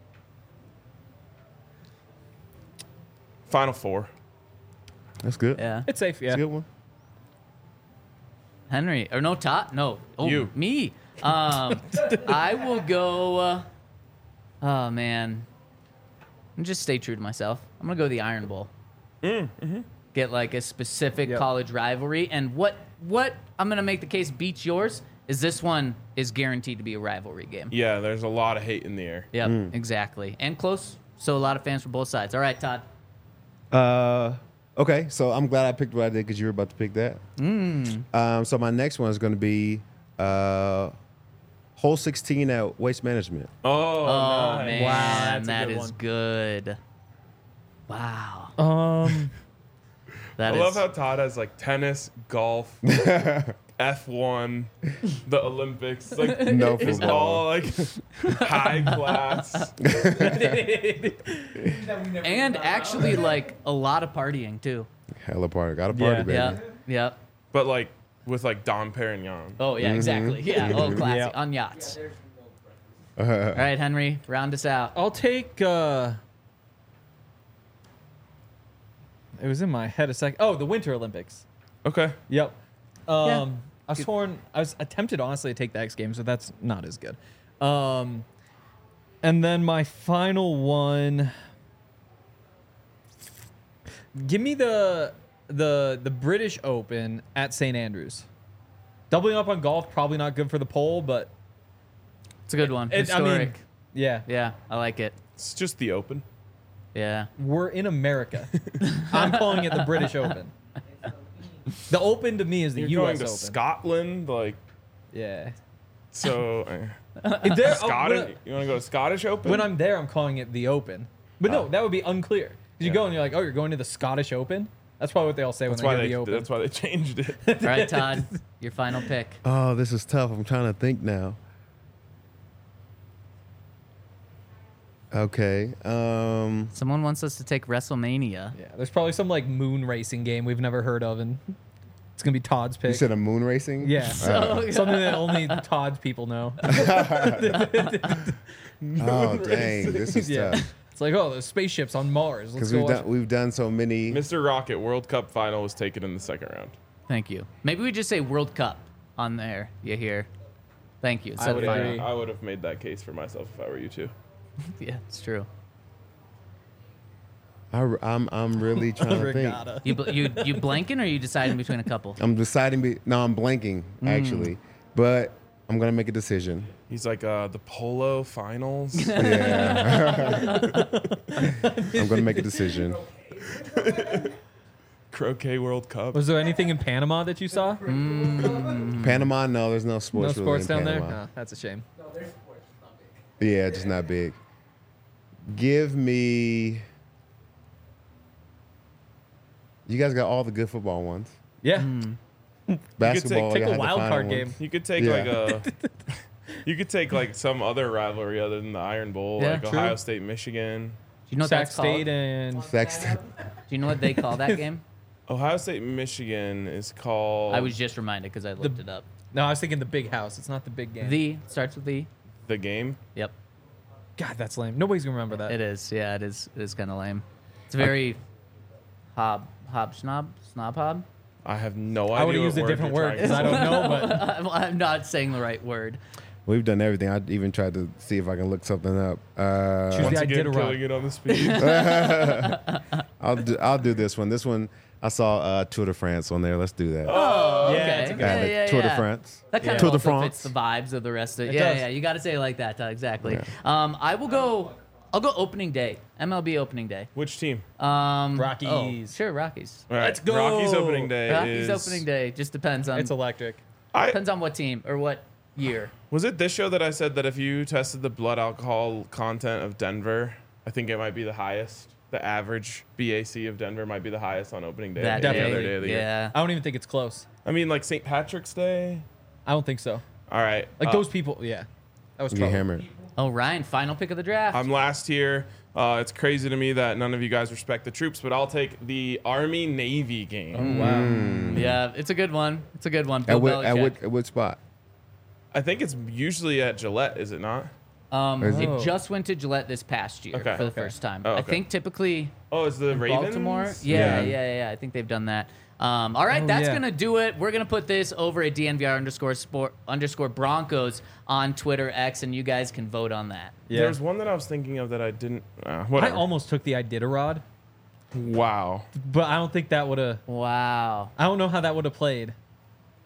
Final Four. That's good. Yeah. It's safe, yeah. That's a good one. Henry or no Todd? No. Oh, You. me. Um, I will go. Uh, oh man, I'm just stay true to myself. I'm gonna go the Iron Bowl. Mm, mm-hmm. Get like a specific Yep. college rivalry, and what what I'm gonna make the case beats yours is this one is guaranteed to be a rivalry game. Yeah, there's a lot of hate in the air. Yep, exactly. And close. So a lot of fans from both sides. All right, Todd. Uh, okay, so I'm glad I picked what I did because you were about to pick that. Mm. Um, so my next one is going to be uh, hole sixteen at Waste Management. Oh, Oh, nice. man. Wow, that's a that good is one. good. Wow. Um, That I is. love how Todd has like tennis, golf, F one, the Olympics. Like No it's football. all like high class. and actually, like, a lot of partying, too. Hella party. Got a party, Yeah. baby. Yeah. Yep. But like with like Dom Perignon. Oh, yeah, exactly. Yeah. Oh, classic. Yeah. On yachts. There's no preference. All right, Henry, round us out. I'll take. Uh, it was in my head a sec. Oh, the Winter Olympics. Okay. Yep. Um, Yeah. I was torn. I was attempted honestly to take the X Games, but that's not as good. Um, and then my final one. Give me the the the British Open at Saint Andrews. Doubling up on golf probably not good for the poll, but It's a good one. it, I mean, Historic. yeah, Yeah, I like it. It's just the Open. Yeah. we're in America. I'm calling it the British Open. The Open to me is the You're U going S to Open. Scotland, like Yeah. so. uh, If there- oh, Scottish. when, You want to go to Scottish Open? when I'm there, I'm calling it the Open. But no, Oh. that would be unclear. 'Cause you Yeah. go and you're like, oh, you're going to the Scottish Open. That's probably what they all say that's when why they they. hear the Open. That's why they changed it. All right, Todd, your final pick. Oh, this is tough. I'm trying to think now. Okay. Um, Someone wants us to take WrestleMania. Yeah, there's probably some like moon racing game we've never heard of, and it's gonna be Todd's pick. you said a moon racing? yeah, So- something that only Todd's people know. Oh, dang. This is yeah, tough. it's like, oh, there's spaceships on Mars. Let's Because go. we've watch- done, we've done so many. Mister Rocket World Cup final was taken in the second round. Thank you. Maybe we just say World Cup on there. You hear? Thank you. I So would final. agree. I would have made that case for myself if I were you too. Yeah, it's true. I, am I'm really trying to think. Regatta. You bl- you you blanking or you deciding between a couple? I'm deciding. Be, no, I'm blanking, actually. But I'm going to make a decision. He's like uh, the polo finals. Yeah. I'm going to make a decision. Croquet World Cup. Was there anything in Panama that you saw? Panama, no, there's no No sports. really sports in down there. Panama. No, that's a shame. No, there's sports. It's not big. Yeah, just not big. Give me. You guys got all the good football ones. Yeah, Basketball, take y'all a had the wild final card ones. game. You could take Yeah. like a. You could take like some other rivalry other than the Iron Bowl, Yeah, like true. Ohio State, Michigan. Do you know what Sac that's called? State and Sexton. Do you know what they call that game? Ohio State, Michigan is called. I was just reminded because I looked it up. no, I was thinking the Big House. It's not the big game. The starts with the. the game. Yep, God, that's lame. Nobody's gonna remember that. it is. Yeah, it is. It is kind of lame. It's very hob hob snob snob hob. I have no idea. I would have what used a word different you're word trying because to I don't know, but I'm, I'm not saying the right word. We've done everything. I even tried to see if I can look something up. Uh, Choose Once the again, Iditarod. killing it on the speed. I'll do, I'll do this one. This one I saw uh, Tour de France on there. Let's do that. Oh, Yeah, okay. it's a good yeah, Uh, the yeah, Tour yeah. de France. That kind Tour of de also France. fits the vibes of the rest of it. It Yeah, does. yeah. You got to say it like that. Todd, exactly. Yeah. Um, I will go. I'll go opening day. M L B opening day. Which team? Um, Rockies. oh, sure, Rockies. All right, Let's go. Rockies opening day. Rockies is, opening day. Just depends on it's electric. I, depends on what team or what year. was it this show that I said that if you tested the blood alcohol content of Denver, I think it might be the highest. The average B A C of Denver might be the highest on opening day. That of any Definitely. other day of the year. yeah. I don't even think it's close. I mean, like Saint Patrick's Day. I don't think so. All right. Like uh, those people, yeah. That was You get trouble. hammered. Oh, Ryan, final pick of the draft. I'm last here. Uh, it's crazy to me that none of you guys respect the troops, but I'll take the Army Navy game. Wow. yeah, it's a good one. It's a good one. At Bill what, at, Belichick. what, at what spot? I think it's usually at Gillette, is it not? Um, Is it- it just went to Gillette this past year Okay. for the Okay. first time. Oh, I okay. think typically Oh, it's the in Ravens. Baltimore. Yeah, Yeah. yeah, yeah, yeah. I think they've done that. Um, all right, Oh, that's yeah. gonna do it. We're gonna put this over at D N V R underscore sport underscore Broncos on Twitter X, and you guys can vote on that. Yeah. There's one that I was thinking of that I didn't. Uh, I whatever. almost took the Iditarod, Wow. but I don't think that would have. Wow. I don't know how that would have played.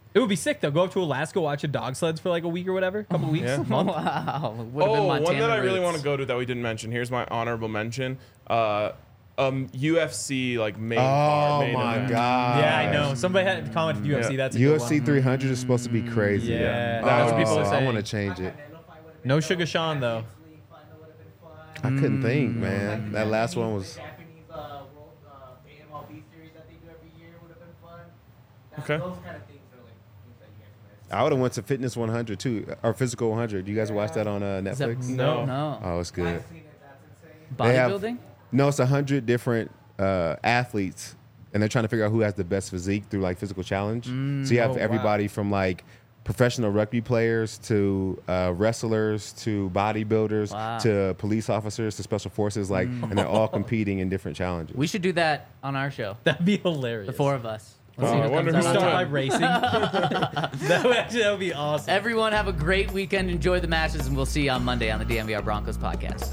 It would be sick though. Go up to Alaska, watch a dog sleds for like a week or whatever, a couple weeks. Yeah. month. Wow. Would have been Oh, Montana one that I really roots. want to go to that we didn't mention. Here's my honorable mention. Uh, um, U F C like main card. Oh main my event. god. Yeah, I know. Somebody had commented U F C. Yeah. That's a U good F C one. three hundred is supposed to be crazy. Yeah, Oh, that's what people are I saying. want to change it. No Sugar Sean though. I couldn't think, Mm. man. That last one was. Japanese uh, world, uh, the M L B series that they do every year would have been fun. That, Okay. Those kind of things are like things that you guys miss. I would have went to Fitness one hundred too, or Physical one hundred. Do you guys watch that on uh, Is that- Netflix? No. No. Oh, it's good. I've seen it. That's insane. They have- Bodybuilding? No, it's a hundred different uh, athletes, and they're trying to figure out who has the best physique through like physical challenge. so you have Oh, wow. everybody from like professional rugby players to uh, wrestlers to bodybuilders Wow. to police officers to special forces, like, and they're all competing in different challenges. We should do that on our show. That'd be hilarious. The four of us. Let's Oh, see I who wonder comes who out on Start top. by racing. that would actually that would be awesome. Everyone have a great weekend. Enjoy the matches, and we'll see you on Monday on the D M V R Broncos podcast.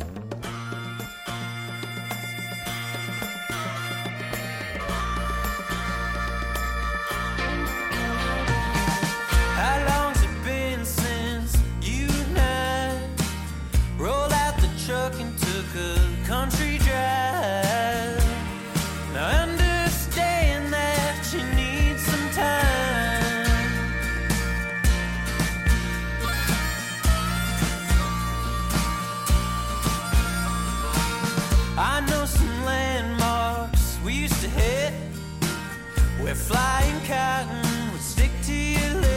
How long's it been since you and I rolled out the truck and took a country drive? Now I understand that you need some time. I know some landmarks we used to hit where flying cotton would stick to your lips.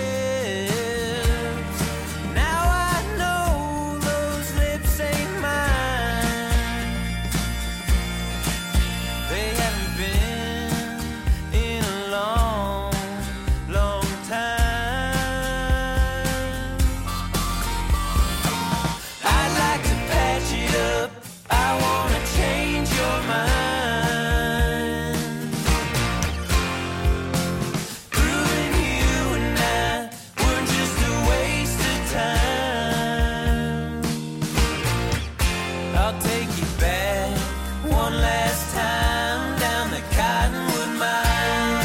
Now I know those lips ain't mine. They haven't been in a long, long time. I'd like to patch it up. I wanna change your mind. Proving you and I were just a waste of time. I'll take you back one last time down the Cottonwood Mine.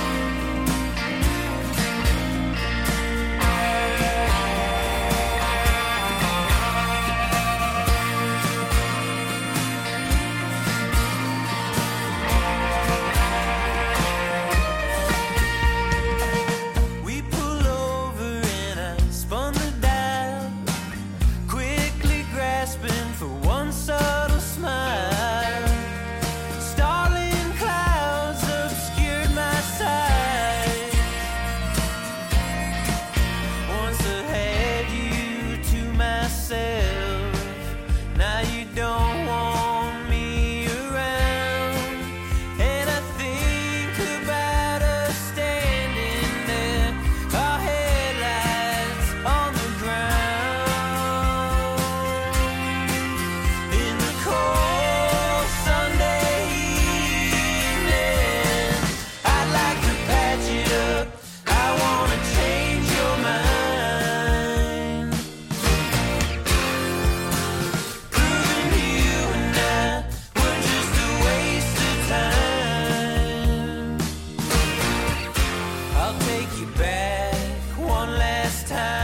We pull over and I spun the dial, quickly grasping for one subtle smile. Starling clouds obscured my sight. Once I had you to myself, now you don't want me around. And I think about us standing there, our headlights on the ground. In the cold Sunday evening, I'd like to patch it up. I wanna change your mind. Proving you and I were just a waste of time. I'll take you back one last time.